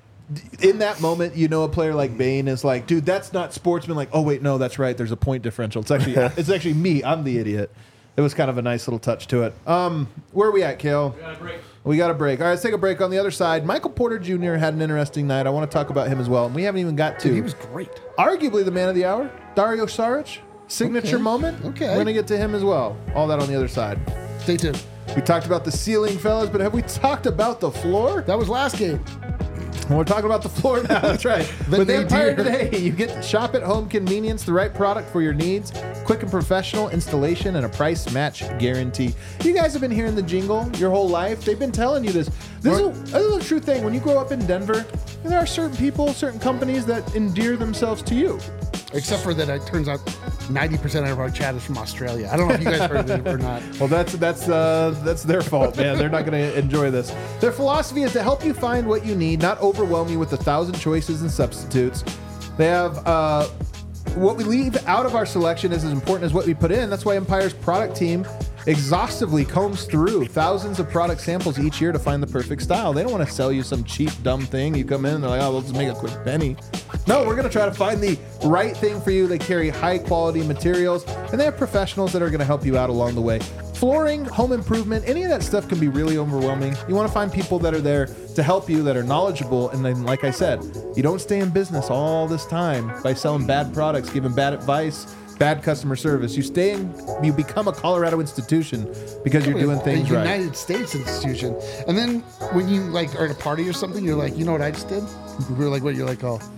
in that moment, you know, a player like Bane is like, dude, that's not sportsman. Like, oh wait, no, that's right. There's a point differential. It's actually it's actually me. I'm the idiot. It was kind of a nice little touch to it. Um, where are we at, Kale? We got a break. We got a break. All right, let's take a break. On the other side, Michael Porter Junior had an interesting night. I want to talk about him as well, and we haven't even got to. Dude, he was great. Arguably the man of the hour, Dario Saric. Signature Okay. moment. Okay. We're going to get to him as well. All that on the other side. Stay tuned. We talked about the ceiling, fellas, but have we talked about the floor? That was last game. Well, we're talking about the floor now. That's right. The With Empire nadir. Today, you get shop at home convenience, the right product for your needs, quick and professional installation, and a price match guarantee. You guys have been hearing the jingle your whole life. They've been telling you this. This is a, this is a true thing. When you grow up in Denver, there are certain people, certain companies that endear themselves to you. Except for that, it turns out ninety percent of our chat is from Australia. I don't know if you guys heard of it or not. Well, that's that's uh, that's their fault, man. They're not going to enjoy this. Their philosophy is to help you find what you need, not overwhelm you with a thousand choices and substitutes. They have uh, what we leave out of our selection is as important as what we put in. That's why Empire's product team exhaustively combs through thousands of product samples each year to find the perfect style. They don't want to sell you some cheap, dumb thing. You come in and they're like, oh, let's make a quick penny. No, we're going to try to find the right thing for you. They carry high quality materials and they have professionals that are going to help you out along the way. Flooring, home improvement, any of that stuff can be really overwhelming. You want to find people that are there to help you, that are knowledgeable. And then, like I said, you don't stay in business all this time by selling bad products, giving bad advice, bad customer service. You stay in, you become a Colorado institution because you're doing things a right. United States institution. And then when you like are at a party or something, you're like, you know what I just did? We're like, what? You're like, oh,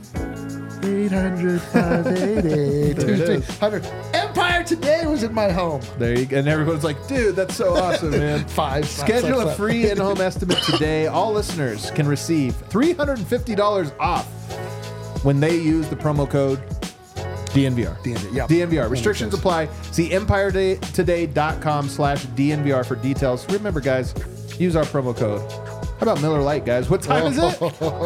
eight hundred, five eighty-eight, There it is. two hundred. Empire Today was in my home. There you go. And everyone's like, dude, that's so awesome, man. Five. slap, Schedule slap, a slap. free in-home estimate today. All listeners can receive three hundred fifty dollars off when they use the promo code D N V R. D N V R, yeah. D N V R. Restrictions apply. See empire today dot com slash D N V R for details. Remember, guys, use our promo code. How about Miller Lite, guys? What time is it?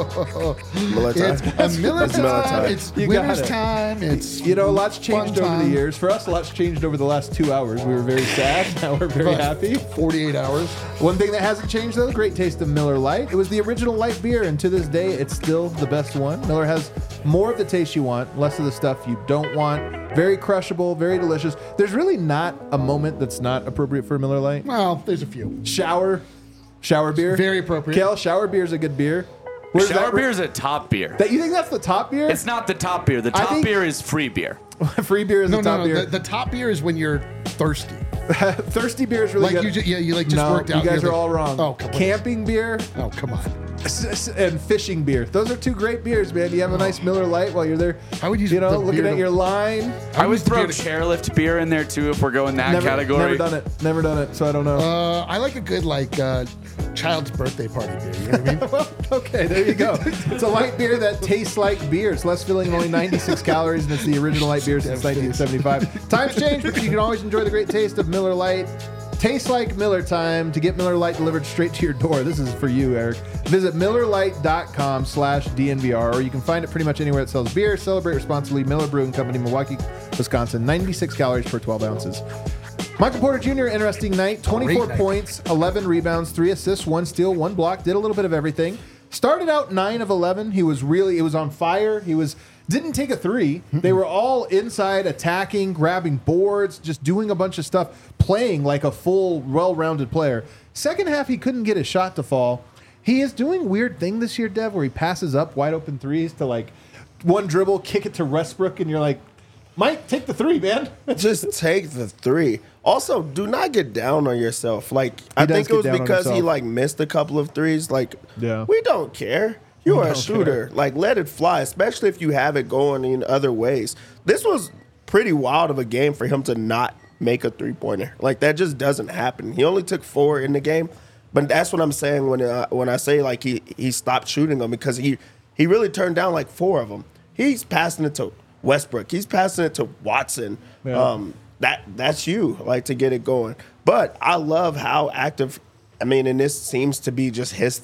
Miller time. It's a Miller It's Miller time. time. It's You got winter's it. time. It's You know, lots changed fun over the time. years. For us, lots changed over the last two hours. We were very sad. Now we're very But happy. forty-eight hours. One thing that hasn't changed, though, great taste of Miller Lite. It was the original light beer, and to this day, it's still the best one. Miller has more of the taste you want, less of the stuff you don't want. Very crushable, very delicious. There's really not a moment that's not appropriate for a Miller Lite. Well, there's a few. Shower, shower beer. Very appropriate. Kel, shower beer is a good beer. Where's Shower that- beer is a top beer. That, you think that's the top beer? It's not the top beer. The I top think- beer is free beer. Free beer is No, the top no, no. beer. The, the top beer is when you're thirsty. Thirsty beer is really Like good. you, ju- yeah, you like just no, worked out. you guys You're are like, all wrong. Oh, come on. Camping beer Oh, come on. s- s- and fishing beer. Those are two great beers, man. You have a nice Miller Lite while you're there. I would use you know, the looking beer at to- your line. I would used to throw be able to- chairlift beer in there too if we're going that Never, category. never done it. Never done it. So I don't know. Uh, I like a good like uh, child's birthday party beer. You know what I mean? well, okay, there you go. It's a light beer that tastes like beer. It's less filling, only ninety-six calories, and it's the original light beer since nineteen seventy-five. Times change, but you can always enjoy the great taste of Miller Lite. Tastes like Miller time. To get Miller Lite delivered straight to your door. This is for you, Eric. Visit miller lite dot com slash D N V R, or you can find it pretty much anywhere that sells beer. Celebrate responsibly. Miller Brewing Company, Milwaukee, Wisconsin. ninety-six calories per twelve ounces. Michael Porter Junior, interesting night. twenty-four night. points, eleven rebounds, three assists, one steal, one block. Did a little bit of everything. Started out nine of eleven. He was really, it was on fire. He was didn't take a three. They were all inside, attacking, grabbing boards, just doing a bunch of stuff, playing like a full, well-rounded player. Second half, he couldn't get his shot to fall. He is doing weird thing this year, Dev, where he passes up wide open threes to like one dribble, kick it to Westbrook, and you're like, Mike, take the three, man. Just take the three. Also, do not get down on yourself. Like I does think it get was down on because he himself. like missed a couple of threes. Like Yeah. we don't care. You are a don't shooter. Like let it fly, especially if you have it going in other ways. This was pretty wild of a game for him to not make a three pointer. Like that just doesn't happen. He only took four in the game, but that's what I'm saying when uh, when I say like he he stopped shooting them because he he really turned down like four of them. He's passing it to Westbrook. He's passing it to Watson. Yeah. Um, that that's you like to get it going. But I love how active. I mean, and this seems to be just his thing.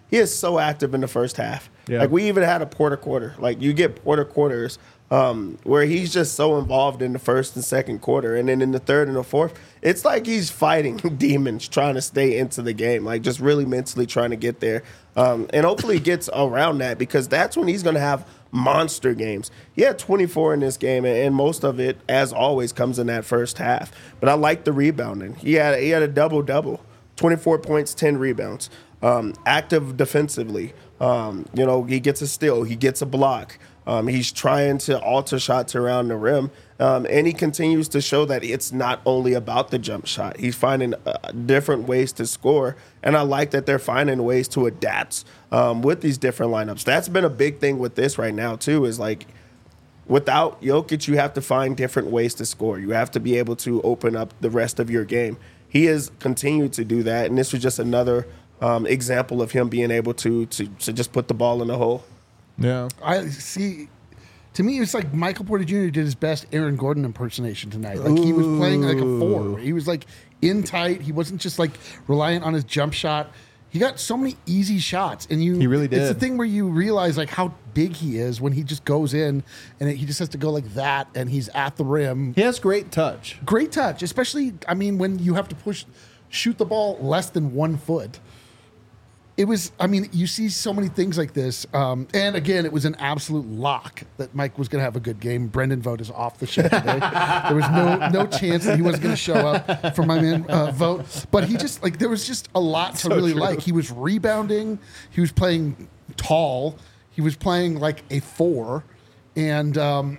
he is so active in the first half. Yeah. Like we even had a Porter quarter. Like you get Porter quarters um, where he's just so involved in the first and second quarter, and then in the third and the fourth, it's like he's fighting demons trying to stay into the game, like just really mentally trying to get there, um, and hopefully gets around that because that's when he's going to have monster games. He had twenty-four in this game, and most of it, as always, comes in that first half. But I like the rebounding. He had he had a double double, twenty-four points, ten rebounds. Um, active defensively. Um, you know, he gets a steal, he gets a block. Um, he's trying to alter shots around the rim, um, and he continues to show that it's not only about the jump shot. He's finding uh, different ways to score, and I like that they're finding ways to adapt um, with these different lineups. That's been a big thing with this right now, too, is like without Jokic, you have to find different ways to score. You have to be able to open up the rest of your game. He has continued to do that, and this was just another um, example of him being able to, to to just put the ball in the hole. Yeah. I see. To me, it's like Michael Porter Junior did his best Aaron Gordon impersonation tonight. Like he was playing like a four. He was like in tight. He wasn't just like reliant on his jump shot. He got so many easy shots, and you. He really did. It's the thing where you realize like how big he is when he just goes in, and he just has to go like that, and he's at the rim. He has great touch. Great touch, especially I mean when you have to push, shoot the ball less than one foot. It was, I mean, you see so many things like this. Um, and again, it was an absolute lock that Mike was going to have a good game. Brendan Vogt is off the show today. There was no no chance that he wasn't going to show up for my man uh, Vogt. But he just, like, there was just a lot to So really true. like. He was rebounding. He was playing tall. He was playing like a four. And um,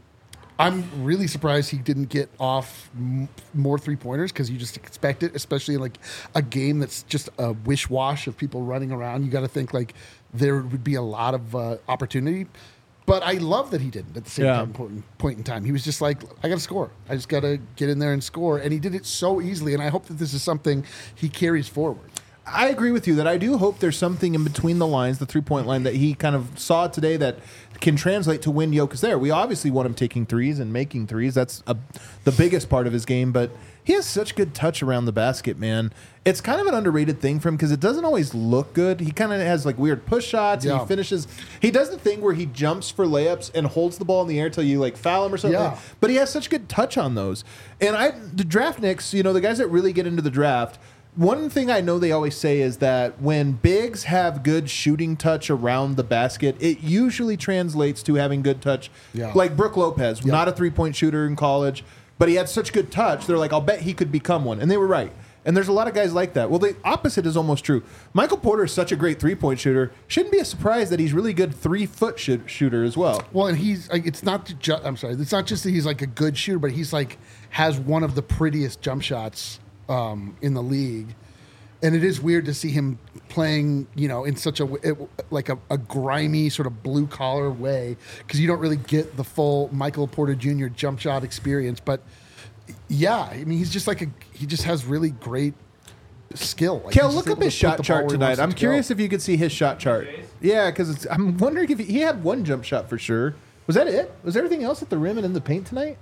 I'm really surprised he didn't get off m- more three pointers because you just expect it, especially in like a game that's just a wish wash of people running around. You got to think like there would be a lot of uh, opportunity. But I love that he didn't at the same Yeah. time, point, point in time. He was just like, I got to score. I just got to get in there and score. And he did it so easily. And I hope that this is something he carries forward. I agree with you that I do hope there's something in between the lines, the three-point line, that he kind of saw today that can translate to when Jokic is there. We obviously want him taking threes and making threes. That's a, the biggest part of his game, but he has such good touch around the basket, man. It's kind of an underrated thing for him because it doesn't always look good. He kind of has like weird push shots and Yeah. he finishes. He does the thing where he jumps for layups and holds the ball in the air till you like foul him or something. Yeah. But he has such good touch on those. And I, the draft nicks, you know, the guys that really get into the draft, one thing I know they always say is that when bigs have good shooting touch around the basket, it usually translates to having good touch. Yeah. Like Brook Lopez, not a three-point shooter in college, but he had such good touch. They're like, I'll bet he could become one. And they were right. And there's a lot of guys like that. Well, the opposite is almost true. Michael Porter is such a great three-point shooter. Shouldn't be a surprise that he's really good three-foot sh- shooter as well. Well, and he's like, it's not just, I'm sorry, it's not just that he's like a good shooter, but he's like, has one of the prettiest jump shots um, in the league. And it is weird to see him playing, you know, in such a it, like a, a grimy sort of blue collar way because you don't really get the full Michael Porter Junior jump shot experience. But yeah, I mean, he's just like a he just has really great skill. Like, Kel, he's look just up able his to put shot the ball chart where he tonight. wants it I'm to go. curious if you could see his shot chart. Yeah, because I'm wondering if he, he had one jump shot for sure. Was that it? Was everything else at the rim and in the paint tonight?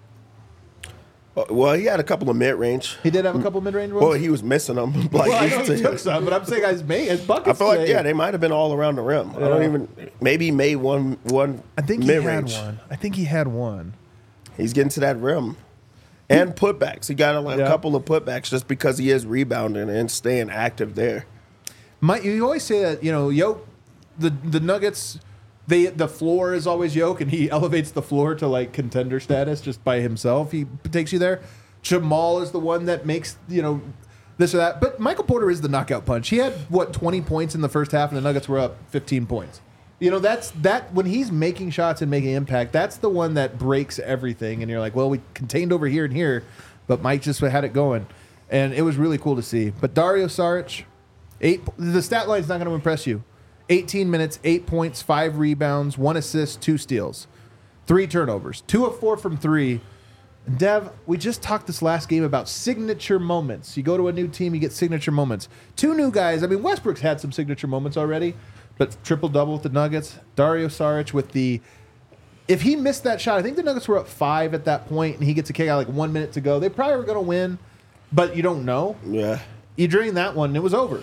Well, he had a couple of mid-range. He did have a couple mid-range ones. Well, he was missing them. Like, Well, I he know used he to- took some, but I'm saying his, mate, his buckets I feel like, today. yeah, they might have been all around the rim. I don't Yeah. even, maybe he made one, one I think he mid-range. had one. I think he had one. He's getting to that rim. And putbacks. He got a like, Yeah. couple of putbacks just because he is rebounding and staying active there. My, you always say that, you know, Yoke, the the Nuggets, they the floor is always Yoke, and he elevates the floor to like contender status just by himself. He takes you there. Jamal is the one that makes, you know, this or that. But Michael Porter is the knockout punch. He had, what, twenty points in the first half, and the Nuggets were up fifteen points. You know, that's that when he's making shots and making impact, that's the one that breaks everything. And you're like, well, we contained over here and here, but Mike just had it going. And it was really cool to see. But Dario Saric, eight, the stat line's not going to impress you. eighteen minutes, eight points, five rebounds, one assist, two steals, three turnovers, two of four from three. And Dev, we just talked this last game about signature moments. You go to a new team, you get signature moments. Two new guys. I mean, Westbrook's had some signature moments already, but triple-double with the Nuggets. Dario Saric with the... If he missed that shot, I think the Nuggets were up five at that point, and he gets a kick out like one minute to go. They probably were going to win, but you don't know. Yeah. You drain that one, and it was over.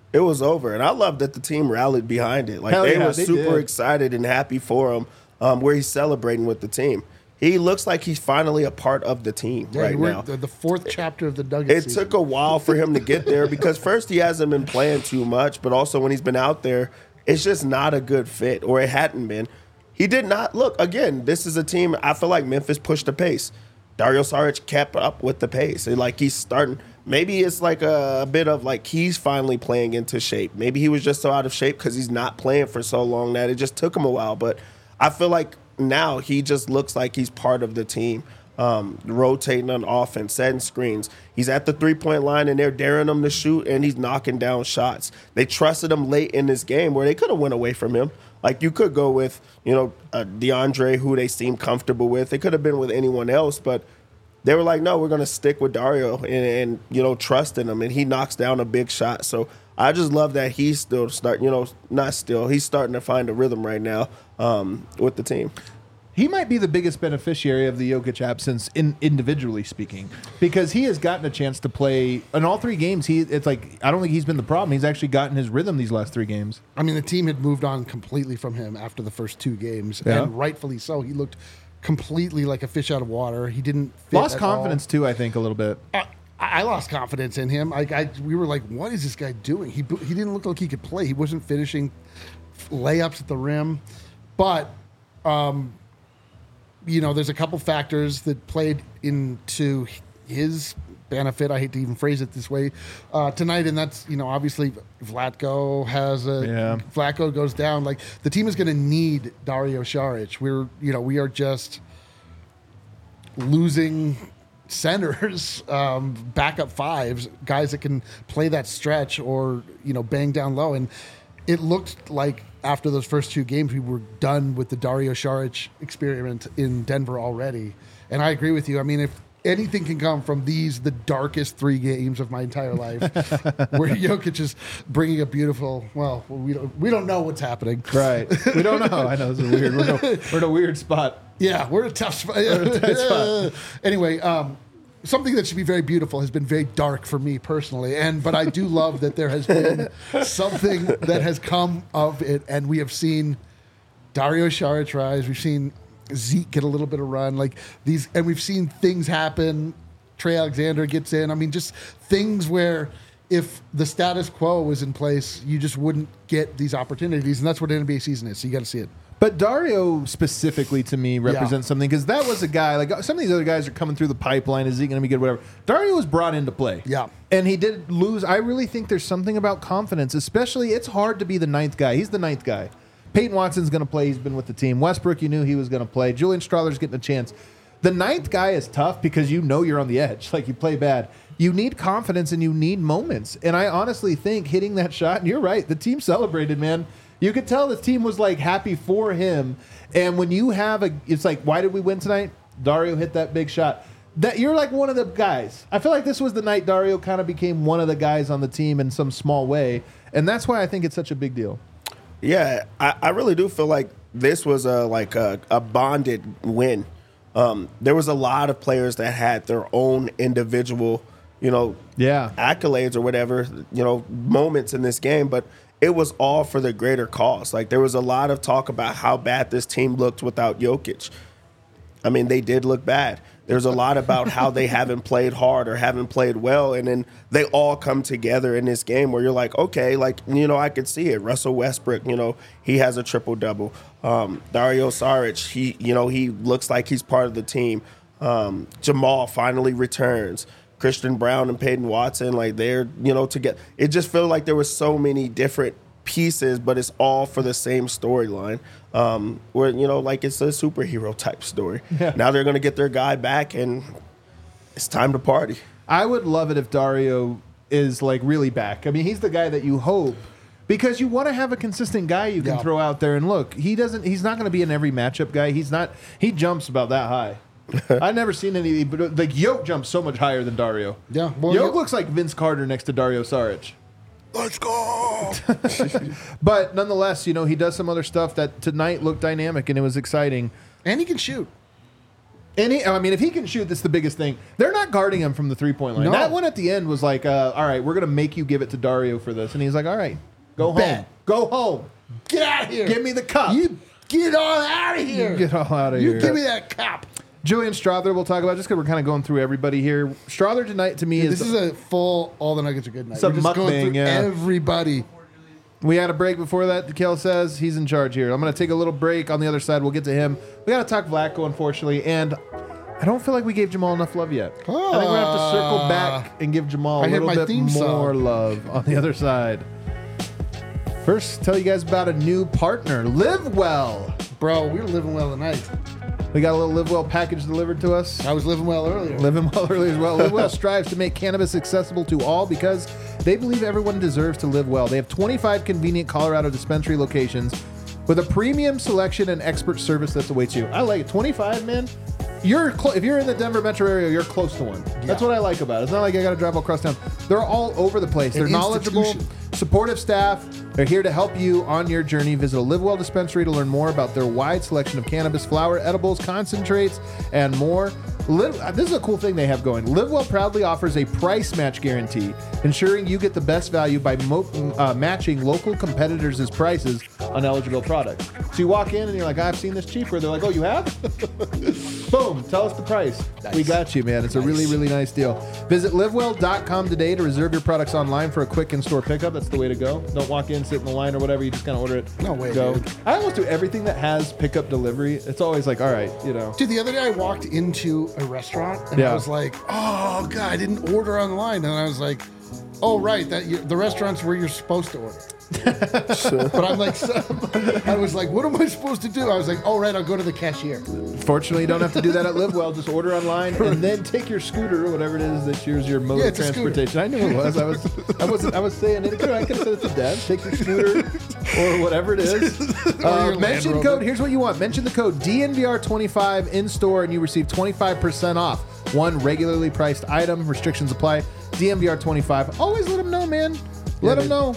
it was over. And I love that the team rallied behind it. Like Hell they yeah, were they super did. excited and happy for him, um, where he's celebrating with the team. He looks like he's finally a part of the team Yeah, right we're now. The, the fourth chapter of the Nuggets. It season. took a while for him to get there because first he hasn't been playing too much, but also when he's been out there, it's just not a good fit, or it hadn't been. He did not look again. This is a team. I feel like Memphis pushed the pace. Dario Saric kept up with the pace. And like he's starting. Maybe it's like a, a bit of like he's finally playing into shape. Maybe he was just so out of shape because he's not playing for so long that it just took him a while. But I feel like now he just looks like he's part of the team. Um, rotating on offense, setting screens. He's at the three-point line, and they're daring him to shoot, and he's knocking down shots. They trusted him late in this game where they could have went away from him. Like, you could go with, you know, uh, DeAndre, who they seem comfortable with. They could have been with anyone else, but they were like, no, we're going to stick with Dario and, and, you know, trust in him, and he knocks down a big shot. So I just love that he's still starting, you know, not still, he's starting to find a rhythm right now um, with the team. He might be the biggest beneficiary of the Jokic absence, in individually speaking, because he has gotten a chance to play in all three games. He, it's like I don't think he's been the problem. He's actually gotten his rhythm these last three games. I mean, the team had moved on completely from him after the first two games, Yeah. and rightfully so. He looked completely like a fish out of water. He didn't fit Lost at confidence too, I think, a little bit. all. I, I lost confidence in him. Like I, we were like, what is this guy doing? He he didn't look like he could play. He wasn't finishing layups at the rim, but. Um, You know, there's a couple factors that played into his benefit. I hate to even phrase it this way uh, tonight, and that's you know obviously Vlatko has a Yeah. Vlatko goes down. Like the team is going to need Dario Saric. We're you know we are just losing centers, um, backup fives, guys that can play that stretch or you know bang down low, and it looked like. After those first two games, we were done with the Dario Saric experiment in Denver already. And I agree with you. I mean, if anything can come from these, the darkest three games of my entire life, where Jokic is bringing a beautiful, well, we don't, we don't know what's happening. Right. We don't know. I know this is weird. We're in a, we're in a weird spot. Yeah, we're in a tough spot. in a tight spot. Anyway, um, something that should be very beautiful has been very dark for me personally, and but I do love that there has been something that has come of it, and we have seen Dario Saric rise. We've seen Zeke get a little bit of run, like these, and we've seen things happen. Trey Alexander gets in. I mean, just things where if the status quo was in place, you just wouldn't get these opportunities, and that's what an N B A season is. So you got to see it. But Dario specifically to me represents Yeah. something because that was a guy like some of these other guys are coming through the pipeline. Is he going to be good? Whatever. Dario was brought into play. Yeah. And he did lose. I really think there's something about confidence, especially it's hard to be the ninth guy. He's the ninth guy. Peyton Watson's going to play. He's been with the team. Westbrook, you knew he was going to play. Julian Strahler's getting a chance. The ninth guy is tough because you know you're on the edge. Like you play bad. You need confidence and you need moments. And I honestly think hitting that shot, and you're right, the team celebrated, man. You could tell the team was like happy for him. And when you have a, it's like, why did we win tonight? Dario hit that big shot. That you're like one of the guys. I feel like this was the night Dario kind of became one of the guys on the team in some small way. And that's why I think it's such a big deal. Yeah, I, I really do feel like this was a like a, a bonded win. Um, there was a lot of players that had their own individual, you know, Yeah. accolades or whatever, you know, moments in this game, but it was all for the greater cause. Like there was a lot of talk about how bad this team looked without Jokic. I mean, they did look bad. There's a lot about how they haven't played hard or haven't played well, and then they all come together in this game where you're like, okay, like, you know, I could see it. Russell Westbrook, you know, he has a triple-double. Um, Dario Saric, he, you know, he looks like he's part of the team. Um, Jamal finally returns. Christian Brown and Peyton Watson, like they're, you know, together. It just felt like there was so many different pieces, but it's all for the same storyline. Um, where, you know, like it's a superhero type story. Yeah. Now they're going to get their guy back, and it's time to party. I would love it if Dario is like really back. I mean, he's the guy that you hope because you want to have a consistent guy you can Yeah. throw out there. And look, he doesn't. He's not going to be an every matchup guy. He's not. He jumps about that high. I've never seen any, but like Yoke jumps so much higher than Dario. Yeah, well, Yoke Yoke- looks like Vince Carter next to Dario Saric. Let's go. But nonetheless, you know, he does some other stuff that tonight looked dynamic and it was exciting. And he can shoot. Any, I mean, if he can shoot, that's the biggest thing. They're not guarding him from the three-point line. No. That one at the end was like, uh, all right, we're going to make you give it to Dario for this. And he's like, all right, go Bet. home. Go home. Get out of here. Give me the cup. You get all out of here. Get all out of you here. give me that cup. Julian Strother we'll talk about, just because we're kind of going through everybody here. Strother tonight, to me, Dude, is... this is a full all the Nuggets are good night. It's a We're just going mukbang, through yeah. everybody. We had a break before that. Kel says he's in charge here. I'm going to take a little break on the other side. We'll get to him. We got to talk Vlatko, unfortunately, and I don't feel like we gave Jamal enough love yet. I think we're going to have to circle back and give Jamal I a hit little my bit theme more song. love on the other side. First, tell you guys about a new partner, Live Well. Bro, we were living well tonight. We got a little Live Well package delivered to us. I was living well earlier. Living well early as well. Live Well strives to make cannabis accessible to all because they believe everyone deserves to live well. They have twenty-five convenient Colorado dispensary locations with a premium selection and expert service that awaits you. I like it. twenty-five, man. You're clo- if you're in the Denver metro area, you're close to one. That's Yeah. what I like about it. It's not like I got to drive all across town. They're all over the place. They're An knowledgeable, institution. supportive staff. They're here to help you on your journey. Visit a Live Well dispensary to learn more about their wide selection of cannabis flower, edibles, concentrates, and more. Live, this is a cool thing they have going. Live Well proudly offers a price match guarantee, ensuring you get the best value by mo- uh, matching local competitors' prices on eligible products. So you walk in and you're like, I've seen this cheaper. They're like, oh, you have? Boom, tell us the price. Nice. We got you, man. It's a really, really nice deal. Visit live well dot com today to reserve your products online for a quick in-store pickup. That's the way to go. Don't walk in, sit in the line or whatever. You just kind of order it. No way, Go. dude. I almost do everything that has pickup delivery. It's always like, all right, you know. Dude, the other day I walked into a restaurant and Yeah. I was like, "Oh God, I didn't order online." And I was like, "Oh right, that you, the restaurant's where you're supposed to order." But I'm like, so, I was like, "What am I supposed to do?" I was like, "Oh right, I'll go to the cashier." Fortunately, you don't have to do that at Live Well. Just order online and then take your scooter or whatever it is that yours your mode Yeah, of it's a scooter. transportation. I knew it was. I was. I wasn't. I was saying it. I could have said it to Deb. Take your scooter or whatever it is. Or Uh, your Land mention Rover. code. Here's what you want. Mention the code D N V R twenty-five in store, and you receive twenty-five percent off one regularly priced item. Restrictions apply. D N V R twenty-five. Always let them know, man. Let them dude. know.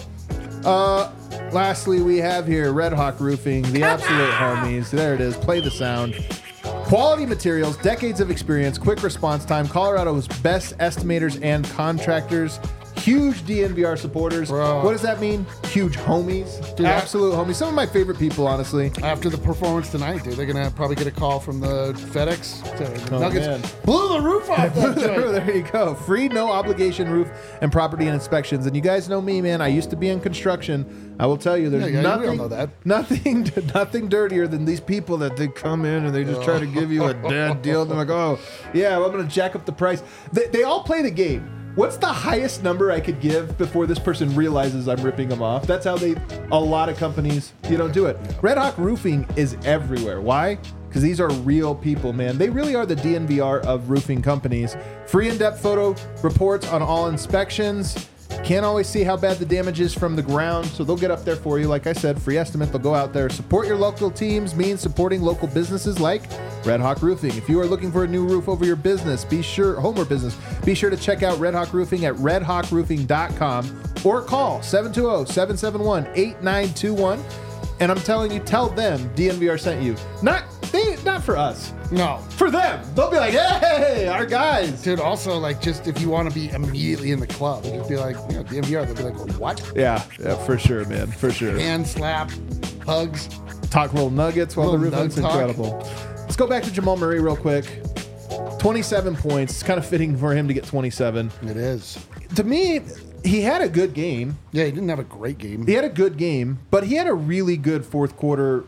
Uh, lastly, we have here Red Hawk Roofing, the absolute homies. There it is. Play the sound. Quality materials, decades of experience, quick response time, Colorado's best estimators and contractors. Huge D N V R supporters. Bro. What does that mean? Huge homies. Dude, I- Absolute homies. Some of my favorite people, honestly. After the performance tonight, dude, they're gonna probably get a call from the FedEx. To, Oh, Nuggets man. blew the roof off that joint. There you go. Free, no obligation roof and property and inspections. And you guys know me, man. I used to be in construction. I will tell you, there's Yeah, yeah, we all nothing, know that. nothing, nothing dirtier than these people that they come in and they just try to give you a dead deal. They're like, oh, yeah, well, I'm going to jack up the price. They, they all play the game. What's the highest number I could give before this person realizes I'm ripping them off? That's how they, a lot of companies, you know, do it. Red Hawk Roofing is everywhere. Why? Because these are real people, man. They really are the D N V R of roofing companies. Free in-depth photo reports on all inspections. Can't always see how bad the damage is from the ground, so they'll get up there for you. Like I said, free estimate. They'll go out there. Support your local teams means supporting local businesses like Red Hawk Roofing. If you are looking for a new roof over your business, be sure, home or business, be sure to check out Red Hawk Roofing at red hawk roofing dot com or call seven two zero, seven seven one, eight nine two one. And I'm telling you, tell them D N V R sent you. Not they, not for us. No, For them. They'll be like, hey, our guys. dude. Also, like, just if you want to be immediately in the club, just be like, you know, D M V R. They'll be like, what? Yeah, yeah, for sure, man. For sure. Hand slap, hugs. Talk little nuggets while the Little roof is nug talk. incredible. Let's go back to Jamal Murray real quick. twenty-seven points. It's kind of fitting for him to get twenty-seven. It is. To me, he had a good game. Yeah, he didn't have a great game. He had a good game, but he had a really good fourth quarter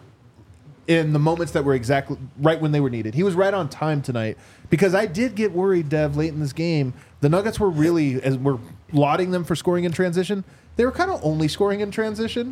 in the moments that were exactly right when they were needed. He was right on time tonight because I did get worried, Dev, late in this game. The Nuggets were really, as we're lauding them for scoring in transition, they were kind of only scoring in transition.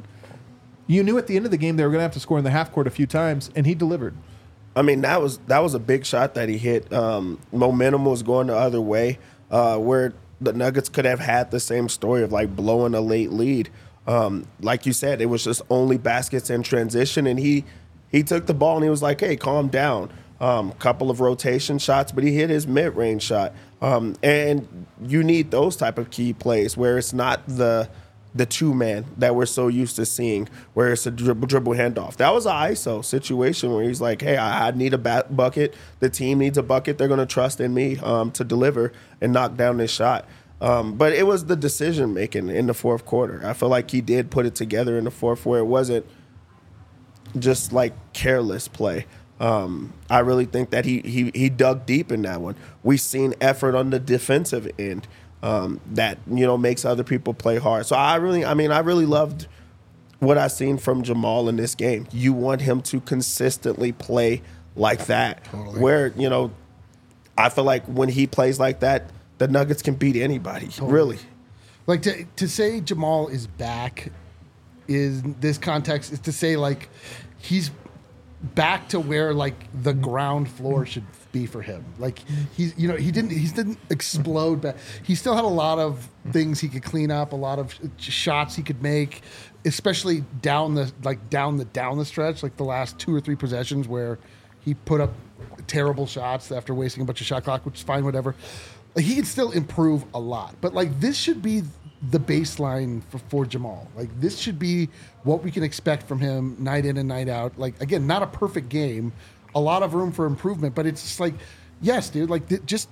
You knew at the end of the game they were going to have to score in the half court a few times, and he delivered. I mean, that was that was a big shot that he hit. Um, momentum was going the other way, uh, where the Nuggets could have had the same story of like blowing a late lead. Um, like you said, it was just only baskets in transition, and he he took the ball and he was like, "Hey, calm down." Um, couple of rotation shots, but he hit his mid-range shot. Um, and you need those type of key plays where it's not the the two man that we're so used to seeing, where it's a dribble dribble handoff. That was an I S O situation where he's like, hey, I, I need a bat bucket. The team needs a bucket. They're going to trust in me um, to deliver and knock down this shot. Um, but it was the decision making in the fourth quarter. I feel like he did put it together in the fourth where it wasn't just like careless play. Um, I really think that he, he he dug deep in that one. We've seen effort on the defensive end. Um, that, you know, makes other people play hard. So I really, I mean, I really loved what I seen from Jamal in this game. You want him to consistently play like that. Totally. Where, you know, I feel like when he plays like that, the Nuggets can beat anybody, Totally. really. Like to to say Jamal is back is this context is to say like he's back to where like the ground floor should be for him. Like he's, you know, he didn't, he didn't explode back. He still had a lot of things he could clean up, a lot of shots he could make, especially down the, like down the, down the stretch, like the last two or three possessions where he put up terrible shots after wasting a bunch of shot clock, which is fine, whatever. Like he can still improve a lot, but like this should be the baseline for, for Jamal. Like this should be what we can expect from him night in and night out. Like again, not a perfect game, a lot of room for improvement, but it's just like, yes, dude, like th- just,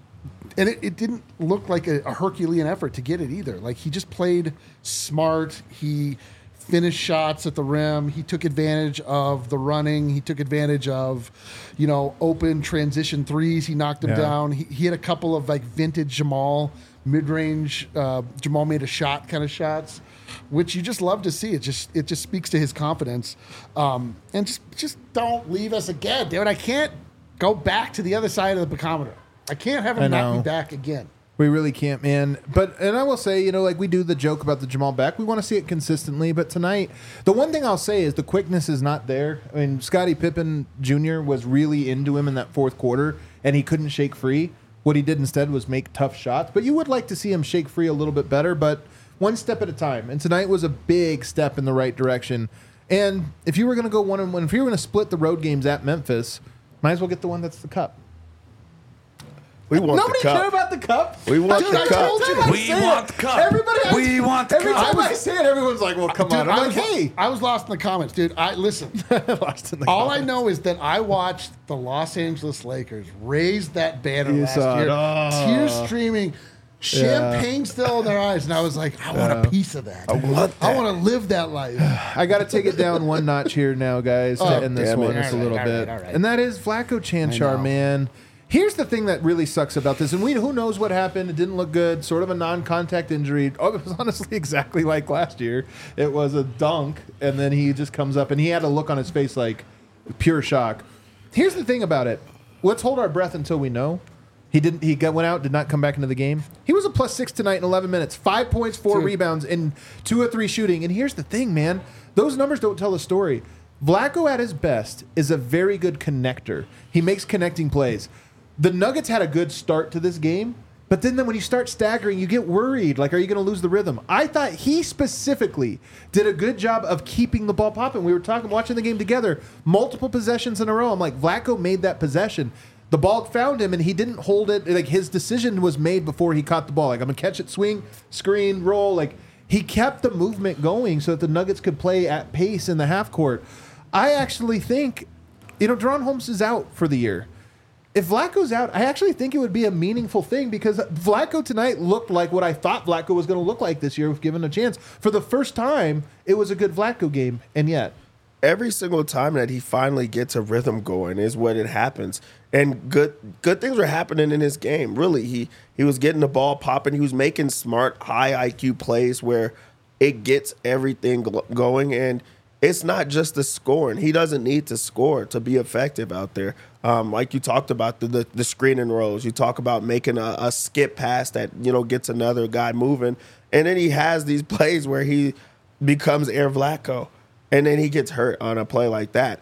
and it, it didn't look like a, a Herculean effort to get it either. Like he just played smart. He finished shots at the rim. He took advantage of the running. He took advantage of, you know, open transition threes. He knocked them Yeah. down. He, he had a couple of like vintage Jamal mid-range. Uh, Jamal made a shot kind of shots, which you just love to see. It just it just speaks to his confidence. Um, and just just don't leave us again, dude. I can't go back to the other side of the barometer. I can't have I him knock know. me back again. We really can't, man. But and I will say, you know, like we do the joke about the Jamal back. We want to see it consistently. But tonight, the one thing I'll say is the quickness is not there. I mean, Scottie Pippen Junior was really into him in that fourth quarter, and he couldn't shake free. What he did instead was make tough shots. But you would like to see him shake free a little bit better, but one step at a time. And tonight was a big step in the right direction. And if you were going to go one and one, if you were going to split the road games at Memphis, might as well get the one that's the cup. We want Nobody the cup. care about the cup. We want Dude, the I cup. told you. I We say want it. the cup. Everybody, I- We want the every cup. time I say it, everyone's like, "Well, come Dude, on." I'm I like, was, "Hey." I was lost in the comments, dude. I listen. Lost in the All I comments. know is that I watched the Los Angeles Lakers raise that banner You last saw it. year, Oh. tears streaming, champagne still in their eyes, and I was like, I want a piece of that. I want I that. want to live that life. I got to take it down one notch here now, guys, to Oh, end this damn it. one just a All right, little all bit. right, all right. And that is Vlatko I Canchar, know. man. Here's the thing that really sucks about this, and we who knows what happened. It didn't look good. Sort of a non-contact injury. Oh, it was honestly exactly like last year. It was a dunk, and then he just comes up, and he had a look on his face like pure shock. Here's the thing about it. Let's hold our breath until we know. He didn't. He got went out. Did not come back into the game. He was a plus six tonight in eleven minutes. Five points, four Dude. rebounds, and two or three shooting. And here's the thing, man. Those numbers don't tell the story. Vlatko at his best is a very good connector. He makes connecting plays. The Nuggets had a good start to this game, but then, then when you start staggering, you get worried. Like, are you going to lose the rhythm? I thought he specifically did a good job of keeping the ball popping. We were talking, watching the game together, multiple possessions in a row. I'm like, Vlatko made that possession. The ball found him, and he didn't hold it. Like, his decision was made before he caught the ball. Like, I'm going to catch it, swing, screen, roll. Like, he kept the movement going so that the Nuggets could play at pace in the half court. I actually think, you know, Deron Holmes is out for the year. If Vlatko's out, I actually think it would be a meaningful thing because Vlatko tonight looked like what I thought Vlatko was going to look like this year if given a chance. For the first time, it was a good Vlatko game, and yet. Every single time that he finally gets a rhythm going is when it happens. And good good things were happening in his game. Really, he he was getting the ball popping. He was making smart, high I Q plays where it gets everything gl- going. And it's not just the scoring. He doesn't need to score to be effective out there. Um, like you talked about the, the the screening rolls. You talk about making a, a skip pass that, you know, gets another guy moving. And then he has these plays where he becomes Air Vlatko. And then he gets hurt on a play like that.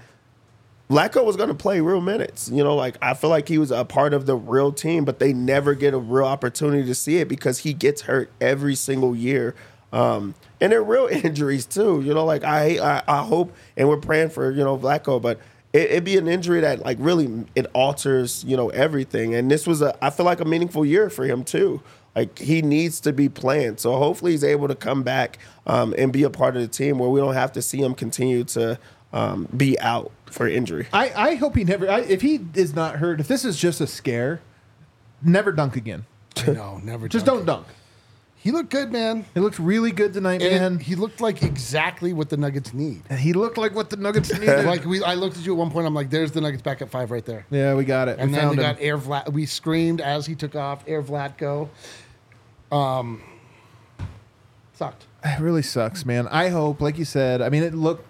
Vlatko was going to play real minutes. You know, like I feel like he was a part of the real team, but they never get a real opportunity to see it because he gets hurt every single year. Um, and they're real injuries too. You know, like I, I, I hope, and we're praying for, you know, Vlatko, but it, it'd be an injury that like really it alters, you know, everything. And this was a, I feel like a meaningful year for him too. Like, he needs to be playing. So hopefully he's able to come back um, and be a part of the team where we don't have to see him continue to um, be out for injury. I, I hope he never. I, if he is not hurt, if this is just a scare, never dunk again. No, never. Just dunk don't it. dunk. He looked good, man. He looked really good tonight, And man. he looked like exactly what the Nuggets need. He looked like what the Nuggets needed. Like we, I looked at you at one point. I'm like, "There's the Nuggets back at five right there." Yeah, we got it. And we then found we him. got Air Vlat. We screamed as he took off. Air Vlatko. Um, sucked. It really sucks, man. I hope, like you said, I mean, it looked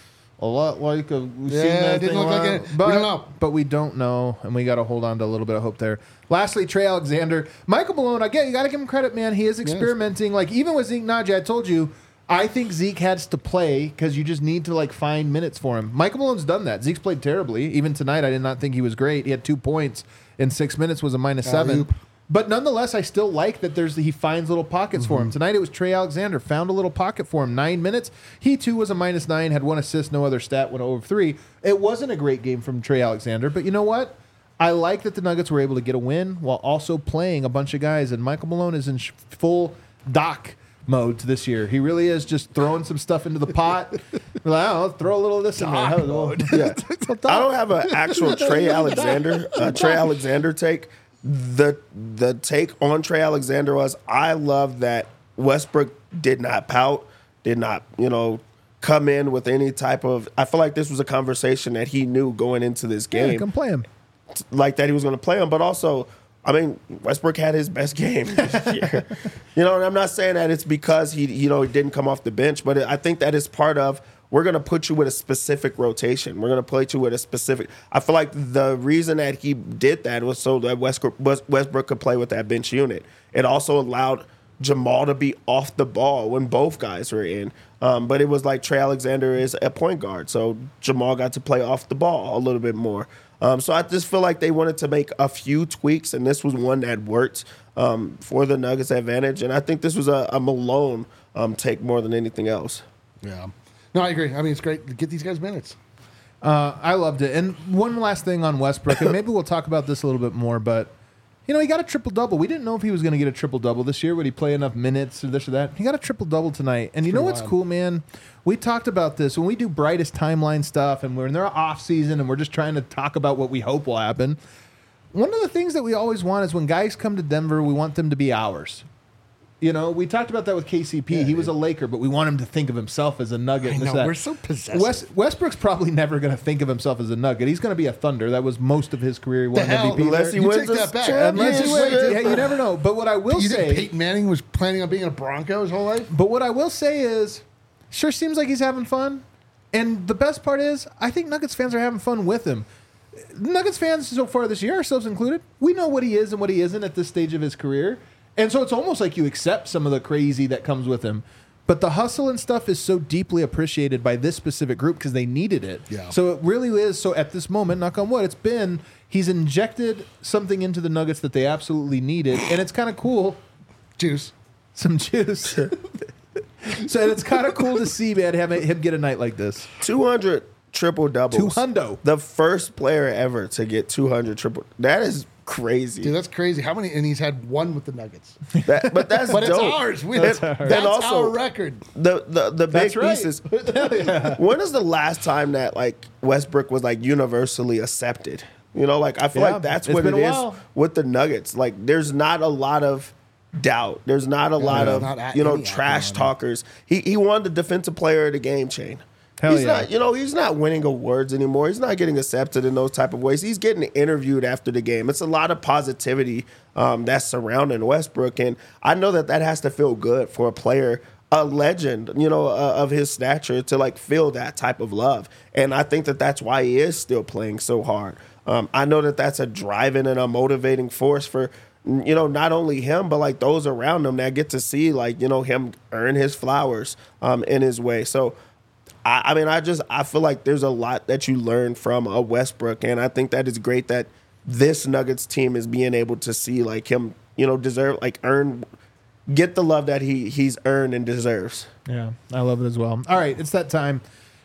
a lot like a. We've Yeah, seen that it didn't thing a look like lot, it. We But, don't know. But we don't know, and we got to hold on to a little bit of hope there. Lastly, Trey Alexander, Michael Malone. Again, you got to give him credit, man. He is experimenting. Like even with Zeke Naji, I told you, I think Zeke has to play because you just need to like find minutes for him. Michael Malone's done that. Zeke's played terribly. Even tonight, I did not think he was great. He had two points in six minutes, was a minus seven. Alley-oop. But nonetheless, I still like that there's he finds little pockets for him. Tonight it was Trey Alexander, found a little pocket for him. Nine minutes. He too was a minus nine, had one assist, no other stat, went over three. It wasn't a great game from Trey Alexander, but you know what? I like that the Nuggets were able to get a win while also playing a bunch of guys, and Michael Malone is in sh- full Doc mode this year. He really is just throwing some stuff into the pot. We're like, oh, let's throw a little of this in there. How- well, Yeah. I don't have an actual Trey Alexander uh, Trey Alexander take. The the take on Trey Alexander was I love that Westbrook did not pout, did not, you know, come in with any type of I feel like this was a conversation that he knew going into this Yeah, game. come play him. Like that he was going to play him, but also, I mean, Westbrook had his best game this year. You know, and I'm not saying that it's because he, you know, he didn't come off the bench, but I think that is part of we're going to put you with a specific rotation. We're going to put you with a specific. I feel like the reason that he did that was so that Westbrook, Westbrook could play with that bench unit. It also allowed Jamal to be off the ball when both guys were in. Um, but it was like Trey Alexander is a point guard, so Jamal got to play off the ball a little bit more. Um, so I just feel like they wanted to make a few tweaks, and this was one that worked um, for the Nuggets' advantage. And I think this was a, a Malone um, take more than anything else. Yeah. No, I agree. I mean, it's great to get these guys minutes. Uh, I loved it. And one last thing on Westbrook, and maybe we'll talk about this a little bit more, but, you know, he got a triple-double. We didn't know if he was going to get a triple-double this year. Would he play enough minutes or this or that? He got a triple-double tonight. And you know what's wild. cool, man? We talked about this. When we do brightest timeline stuff and we're in their off-season and we're just trying to talk about what we hope will happen, one of the things that we always want is when guys come to Denver, we want them to be ours. You know, we talked about that with K C P. Yeah, he was dude. a Laker, but we want him to think of himself as a Nugget. I and this, know, that. we're so possessive. West, Westbrook's probably never going to think of himself as a Nugget. He's going to be a Thunder. That was most of his career. He won hell? M V P Unless there. he You wins take a that back. Unless he championship. wins. Yeah, you never know. But what I will You say, think Peyton Manning was planning on being a Bronco his whole life? but what I will say is, sure seems like he's having fun. And the best part is, I think Nuggets fans are having fun with him. Nuggets fans so far this year, ourselves included, we know what he is and what he isn't at this stage of his career. And so it's almost like you accept some of the crazy that comes with him. But the hustle and stuff is so deeply appreciated by this specific group because they needed it. Yeah. So it really is. So at this moment, knock on wood, it's been, he's injected something into the Nuggets that they absolutely needed. And it's kind of cool. Juice. Some juice. So it's kind of cool to see, man, have him get a night like this. two hundred triple doubles. Two hundo. The first player ever to get two hundred triple. That is crazy. Dude, that's crazy. How many? And he's had one with the Nuggets. That- but that's But it's dope. ours. We, That's, that's and also our record. the the the big That's right. pieces. When is the last time that like Westbrook was like universally accepted? You know, like I feel Yeah, like that's it's what been it a is while. with the Nuggets. Like there's not a lot of doubt. There's not a lot there's of not a- you know any trash accolade. talkers. He he won the defensive player of the game chain. Hell he's yeah. not, you know, he's not winning awards anymore. He's not getting accepted in those type of ways. He's getting interviewed after the game. It's a lot of positivity um, that's surrounding Westbrook, and I know that that has to feel good for a player, a legend, you know, uh, of his stature, to like feel that type of love. And I think that that's why he is still playing so hard. Um, I know that that's a driving and a motivating force for, you know, not only him, but like those around him that get to see like, you know, him earn his flowers um, in his way. So, I, I mean, I just I feel like there's a lot that you learn from a Westbrook, and I think that is great that this Nuggets team is being able to see like him, you know, deserve like earn, get the love that he he's earned and deserves. Yeah, I love it as well. All right, it's that time.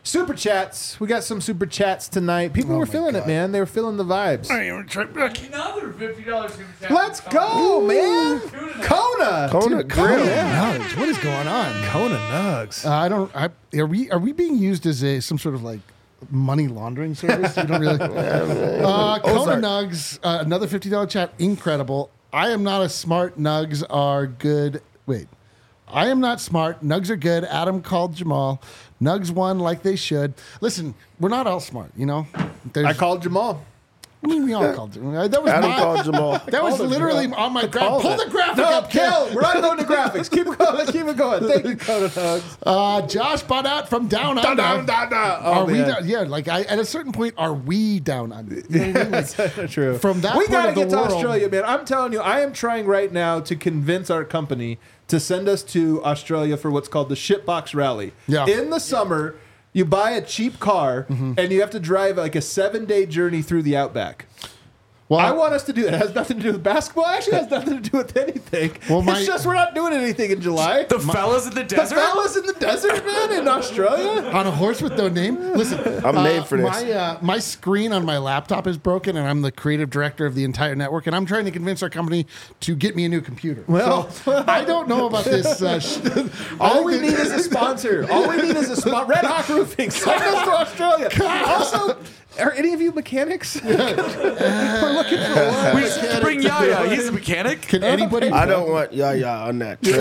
Super chats. We got some super chats tonight. People Oh were my feeling it, God. man. They were feeling the vibes. Another fifty dollars super chat. Let's go, man. Kona. Kona Dude, Grill. Kona Nugs. What is going on? Kona Nugs. Uh, I don't. I, are we are we being used as a some sort of like money laundering service? You don't really. uh, Kona Ozark. Nugs. Uh, another fifty dollar chat. Incredible. I am not a smart. Nugs are good. Wait. I am not smart. Nugs are good. Adam called Jamal. Nugs won like they should. Listen, we're not all smart, you know. There's, I called Jamal. I mean, we all called. Jamal. That was Adam my, called Jamal. That was Called him, literally Jamal. on my I graph. called Pull it. the graphic No, up, Kel. We're not going to graphics. Keep going. Keep it going. Thank you, Kona Nugs. Uh, Josh bought out from down under. Down, down, down. Oh, Are we man. down? Yeah, like I, at a certain point, are we down under? You know what I mean? Like, That's true. From that we point gotta of the get to world- Australia, man. I'm telling you, I am trying right now to convince our company to send us to Australia for what's called the Shitbox Rally. Yeah. In the summer, you buy a cheap car and you have to drive like a seven day journey through the outback. well, I want us to do that. It has nothing to do with basketball. Actually, it has nothing to do with anything. Well, my- it's just we're not doing anything in July. The fellas in the The desert. fellas in the desert, man, in Australia. on a horse with no name. Listen, I'm uh, made for this. My uh, my screen on my laptop is broken, and I'm the creative director of the entire network, and I'm trying to convince our company to get me a new computer. Well- so, I don't know about this. Uh, sh- All I we think need is a sponsor. All we need is a spot. Red Hawk Roofing. Send us to Australia. Also, are any of you mechanics? We're looking for one. We should bring Yaya. He's a mechanic. Can anybody? I don't want yeah yeah on that. trip.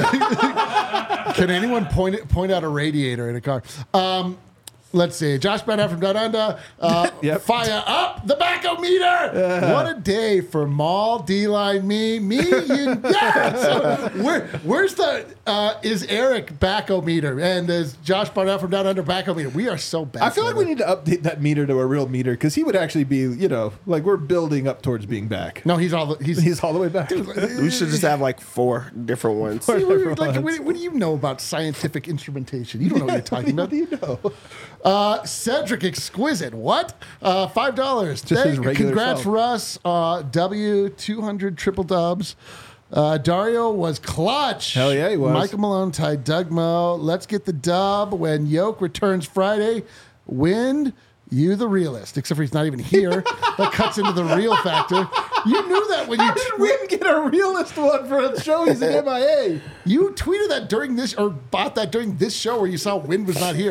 Can anyone point it, point out a radiator in a car? Um, let's see. Josh Bennett from Down Under. Uh, Yep. Fire up the baco meter. What a day for Maul, D-Line, me, me, you. Yeah. So where, where's the uh, is Eric baco meter and is Josh Barnett from Down Under baco meter? We are so bad. I feel like we need to update that meter to a real meter because he would actually be, you know, like we're building up towards being back. No, he's all the, he's He's all the way back. We should just have like four different ones. Like, what, what do you know about scientific instrumentation? You don't know what you're talking about. What do you know? Uh, Cedric Exquisite. What? Uh, Five dollars. Just his regular Congrats, self. Russ. Uh, W two hundred triple dubs. Uh, Dario was clutch. Hell yeah, he was. Michael Malone tied Doug Mo. Let's get the dub when Yoke returns Friday. Wind. You the realist, except for he's not even here. That cuts into the real factor. You knew that when you How did Win get a realist one for a show? He's an M I A. you tweeted that during this or bought that during this show where you saw Wind was not here.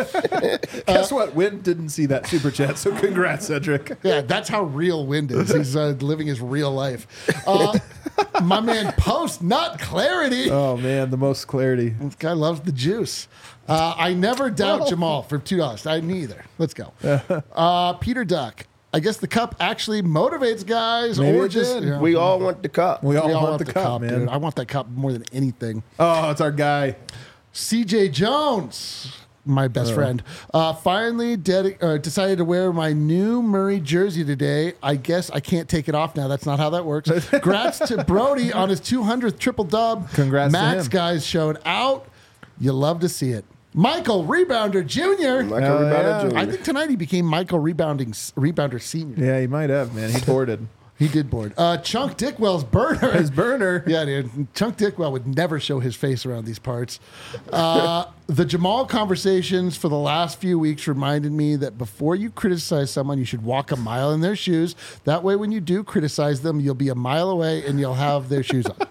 Guess what? Win didn't see that super chat, so congrats, Cedric. Yeah, that's how real Wind is. He's uh, living his real life. Uh, my man Post, not Clarity. Oh man, the most clarity. This guy loves the juice. Uh, I never doubt Jamal for two dollars. I neither. Let's go. Uh, Peter Duck. I guess the cup actually motivates guys, Maybe or it just did. you know, We all want the cup. We all we want, the, cup, man. dude. I want that cup more than anything. Oh, it's our guy. C J Jones, my best friend, uh, finally dedi- uh, decided to wear my new Murray jersey today. I guess I can't take it off now. That's not how that works. Congrats to Brody on his two hundredth triple dub. Congrats to Max him. guys showed out. You love to see it. Michael Rebounder Junior Like Hell everybody yeah. Junior. I think tonight he became Michael Rebounding Rebounder Senior. Yeah, he might have, man. He boarded. He did board. Uh, Chunk Dickwell's burner. His burner. Yeah, dude. Chunk Dickwell would never show his face around these parts. Uh, the Jamal conversations for the last few weeks reminded me that before you criticize someone, you should walk a mile in their shoes. That way, when you do criticize them, you'll be a mile away and you'll have their shoes on.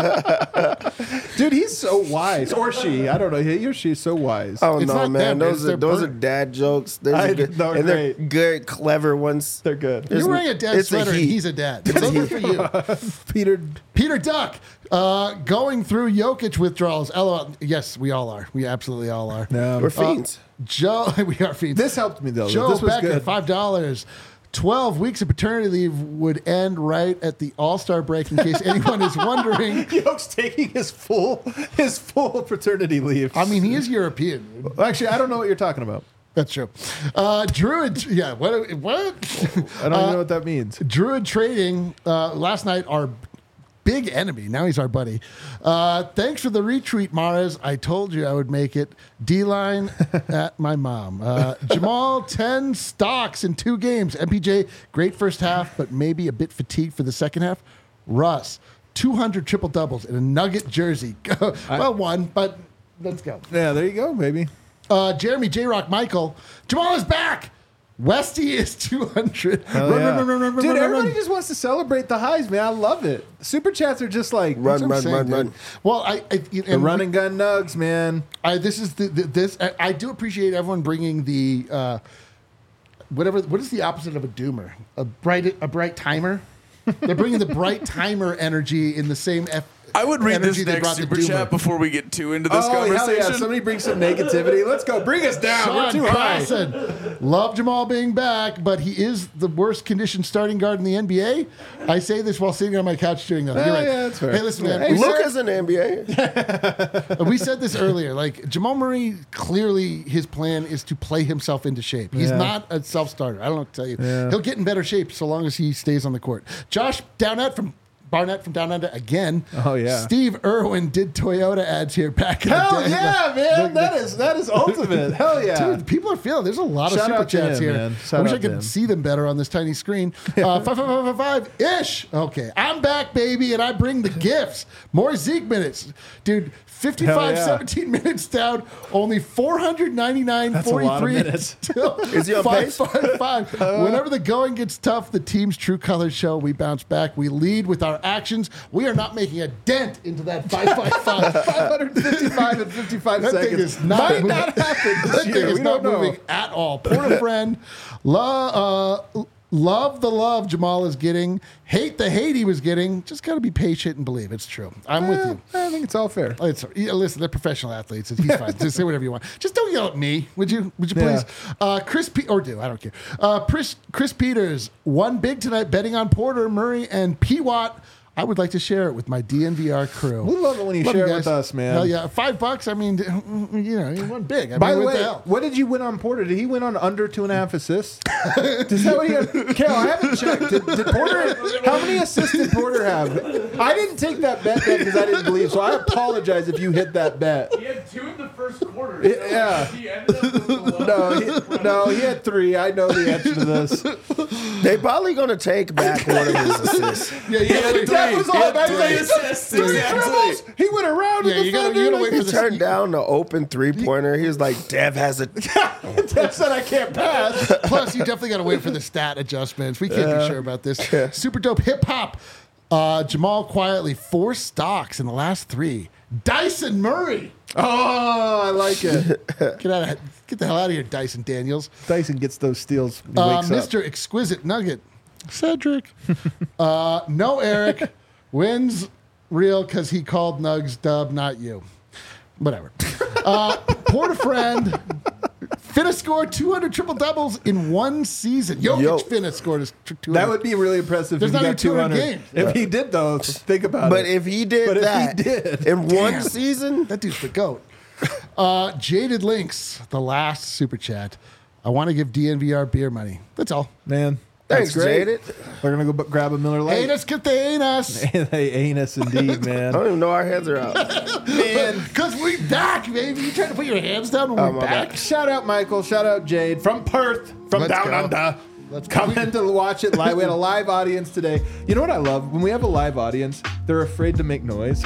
Dude, he's so wise. Or she. I don't know. He or she is so wise. Oh It's no, not man! them, it's Those their are those are burn. dad jokes. Those I- are good, they're and they're great. good, clever ones. They're good. You're It's- wearing a dad it's a sweater and he. he's a dad. Those are for you. Peter. Peter Duck, uh, going through Jokic withdrawals. L O L. Yes, we all are. We absolutely all are. No. We're fiends. Joe, we are fiends. This helped me, though. Joe this was Becker, good. five dollars. Twelve weeks of paternity leave would end right at the All Star break. In case anyone is wondering, Yoke's taking his full his full paternity leave. I mean, he is European. Dude. Actually, I don't know what you're talking about. That's true. Uh, Druid, yeah. What? What? I don't even know what that means. Druid Trading uh, last night. Our big enemy. Now he's our buddy. Uh, thanks for the retweet, Mares. I told you I would make it. D-line at my mom. Uh, Jamal, ten stocks in two games. M P J, great first half, but maybe a bit fatigued for the second half. Russ, two hundred triple doubles in a Nugget jersey. Well, one, but let's go. Yeah, there you go, baby. Uh, Jeremy J Rock Michael. Jamal is back. Westy is two hundred. Hell Run, yeah. run, run, run, run, Dude, run, everybody run. just wants to celebrate the highs, man. I love it. Super chats are just like Run, That's what I'm run, saying, run, dude. run. Well, I, I the and run and gun nugs, man. I, this is the, the this. I, I do appreciate everyone bringing the uh, whatever. What is the opposite of a doomer? A bright a bright timer. They're bringing the bright timer energy in the same. F- I would read energy this they next brought the super doomer. chat before we get too into this Oh, hell conversation. yeah. Somebody bring some negativity. Let's go. Bring us down. We're Sean too high. Carlson. Love Jamal being back, but he is the worst conditioned starting guard in the N B A. I say this while sitting on my couch doing nothing. Oh, You're right. yeah, that's fair. Hey, listen, man. Hey, we, Luke said, is in the N B A. we said this earlier. Like Jamal Murray, clearly his plan is to play himself into shape. He's Yeah. not a self starter. I don't know what to tell you. Yeah. He'll get in better shape so long as he stays on the court. Josh Downett from. Barnett from Down Under again. Oh, yeah. Steve Irwin did Toyota ads here back in Hell the day. yeah, Like, man. look, That is that is ultimate. Hell yeah. Dude, people are feeling. There's a lot of Shout super out to chats him, here. man. I Shout wish I out to could him. see them better on this tiny screen. Uh, five, five, five, five, five ish. Okay, I'm back, baby, and I bring the gifts. More Zeke minutes, dude. fifty-five, Hell yeah. seventeen minutes down. Only four ninety-nine, That's a lot of forty-three. minutes. Is Is he on pace? Five, five, five. Whenever the going gets tough, the team's true colors show. We bounce back. We lead with our actions. We are not making a dent into that five, five, five. five fifty-five and fifty-five That seconds. thing is not Might moving. not happen That this thing year. is We not don't know. moving at all. Porter friend, lo- uh, love the love Jamal is getting, hate the hate he was getting. Just got to be patient and believe it's true. I'm with you. I think it's all fair. It's, yeah, listen, they're professional athletes. and He's fine. Just say whatever you want. Just don't yell at me, would you? Would you please? Yeah. Uh, Chris Pe- or do I don't care. Uh, Chris Chris Peters won big tonight, betting on Porter, Murray, and P. Watt. I would like to share it with my D N V R crew. We love it when you share it with us, man. Hell yeah, five bucks. I mean, you know, he won big. I By mean, the what way, hell? what did you win on Porter? Did he win on under two and a half assists? Is that what he had? Cal, I haven't checked. Did, did Porter? How many assists did Porter have? I didn't take that bet because I didn't believe. So I apologize if you hit that bet. He had two in the first quarter. so Yeah. He ended up with eleven. No, he, no, he had three. I know the answer to this. They probably gonna take back one of his assists. Yeah, you gotta wait. That was He all. had That three was assists, three exactly. dribbles. He went around. Yeah, the you gotta- defender you gotta like wait for He the- turned down the open three pointer. He was like, Dev has a. That said I can't pass. Plus, you definitely got to wait for the stat adjustments. We can't be sure about this. Super dope hip hop. Uh, Jamal quietly four stocks in the last three. Dyson Murray. Oh, I like it. Get out of get the hell out of here, Dyson Daniels. Dyson gets those steals. When he Uh, wakes up. Mister Exquisite Nugget. Cedric. uh, no, Eric wins real because he called Nugs dub, not you. Whatever. Uh, Porter friend. Finna scored two hundred triple doubles in one season. Jokic Yo. Finna scored his two hundred. That would be really impressive There's if he not got even two two hundred hundred. games. If he did, though, think about But it. if he did But if he that did. in Damn. one season, That dude's the GOAT. Uh, Jaded Links, the last super chat. I want to give D N V R beer money. That's all. Man, Thanks, that's great. Jaded. We're going to go b- grab a Miller Lite. Anus, get the anus. Hey, anus indeed, I man. don't even know our heads are out. Man. Because we back, baby. You trying to put your hands down when Oh, we're my back? bad. Shout out Michael. Shout out Jade from Perth, from Let's down go. under. Let's go. Come in to watch it live. We had a live audience today. You know what I love? When we have a live audience, they're afraid to make noise.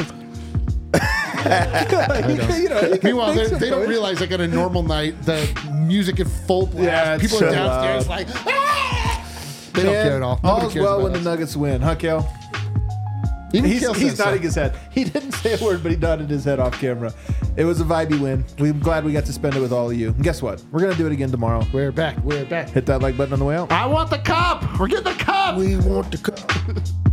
Like, you can- you know, you can Meanwhile, make they, some they don't noise. realize like on a normal night, the music is full blast. Yeah, it's People so are downstairs loud. like, ah! They don't Man, care at all. Nobody All's cares well about when the us. Nuggets win, huh, Kel? Even He's, Kale he's says so. nodding his head. He didn't say a word, but he nodded his head off camera. It was a vibey win. We're glad we got to spend it with all of you. And guess what? We're going to do it again tomorrow. We're back. We're back. Hit that like button on the way out. I want the cup. We're getting the cup. We want to come.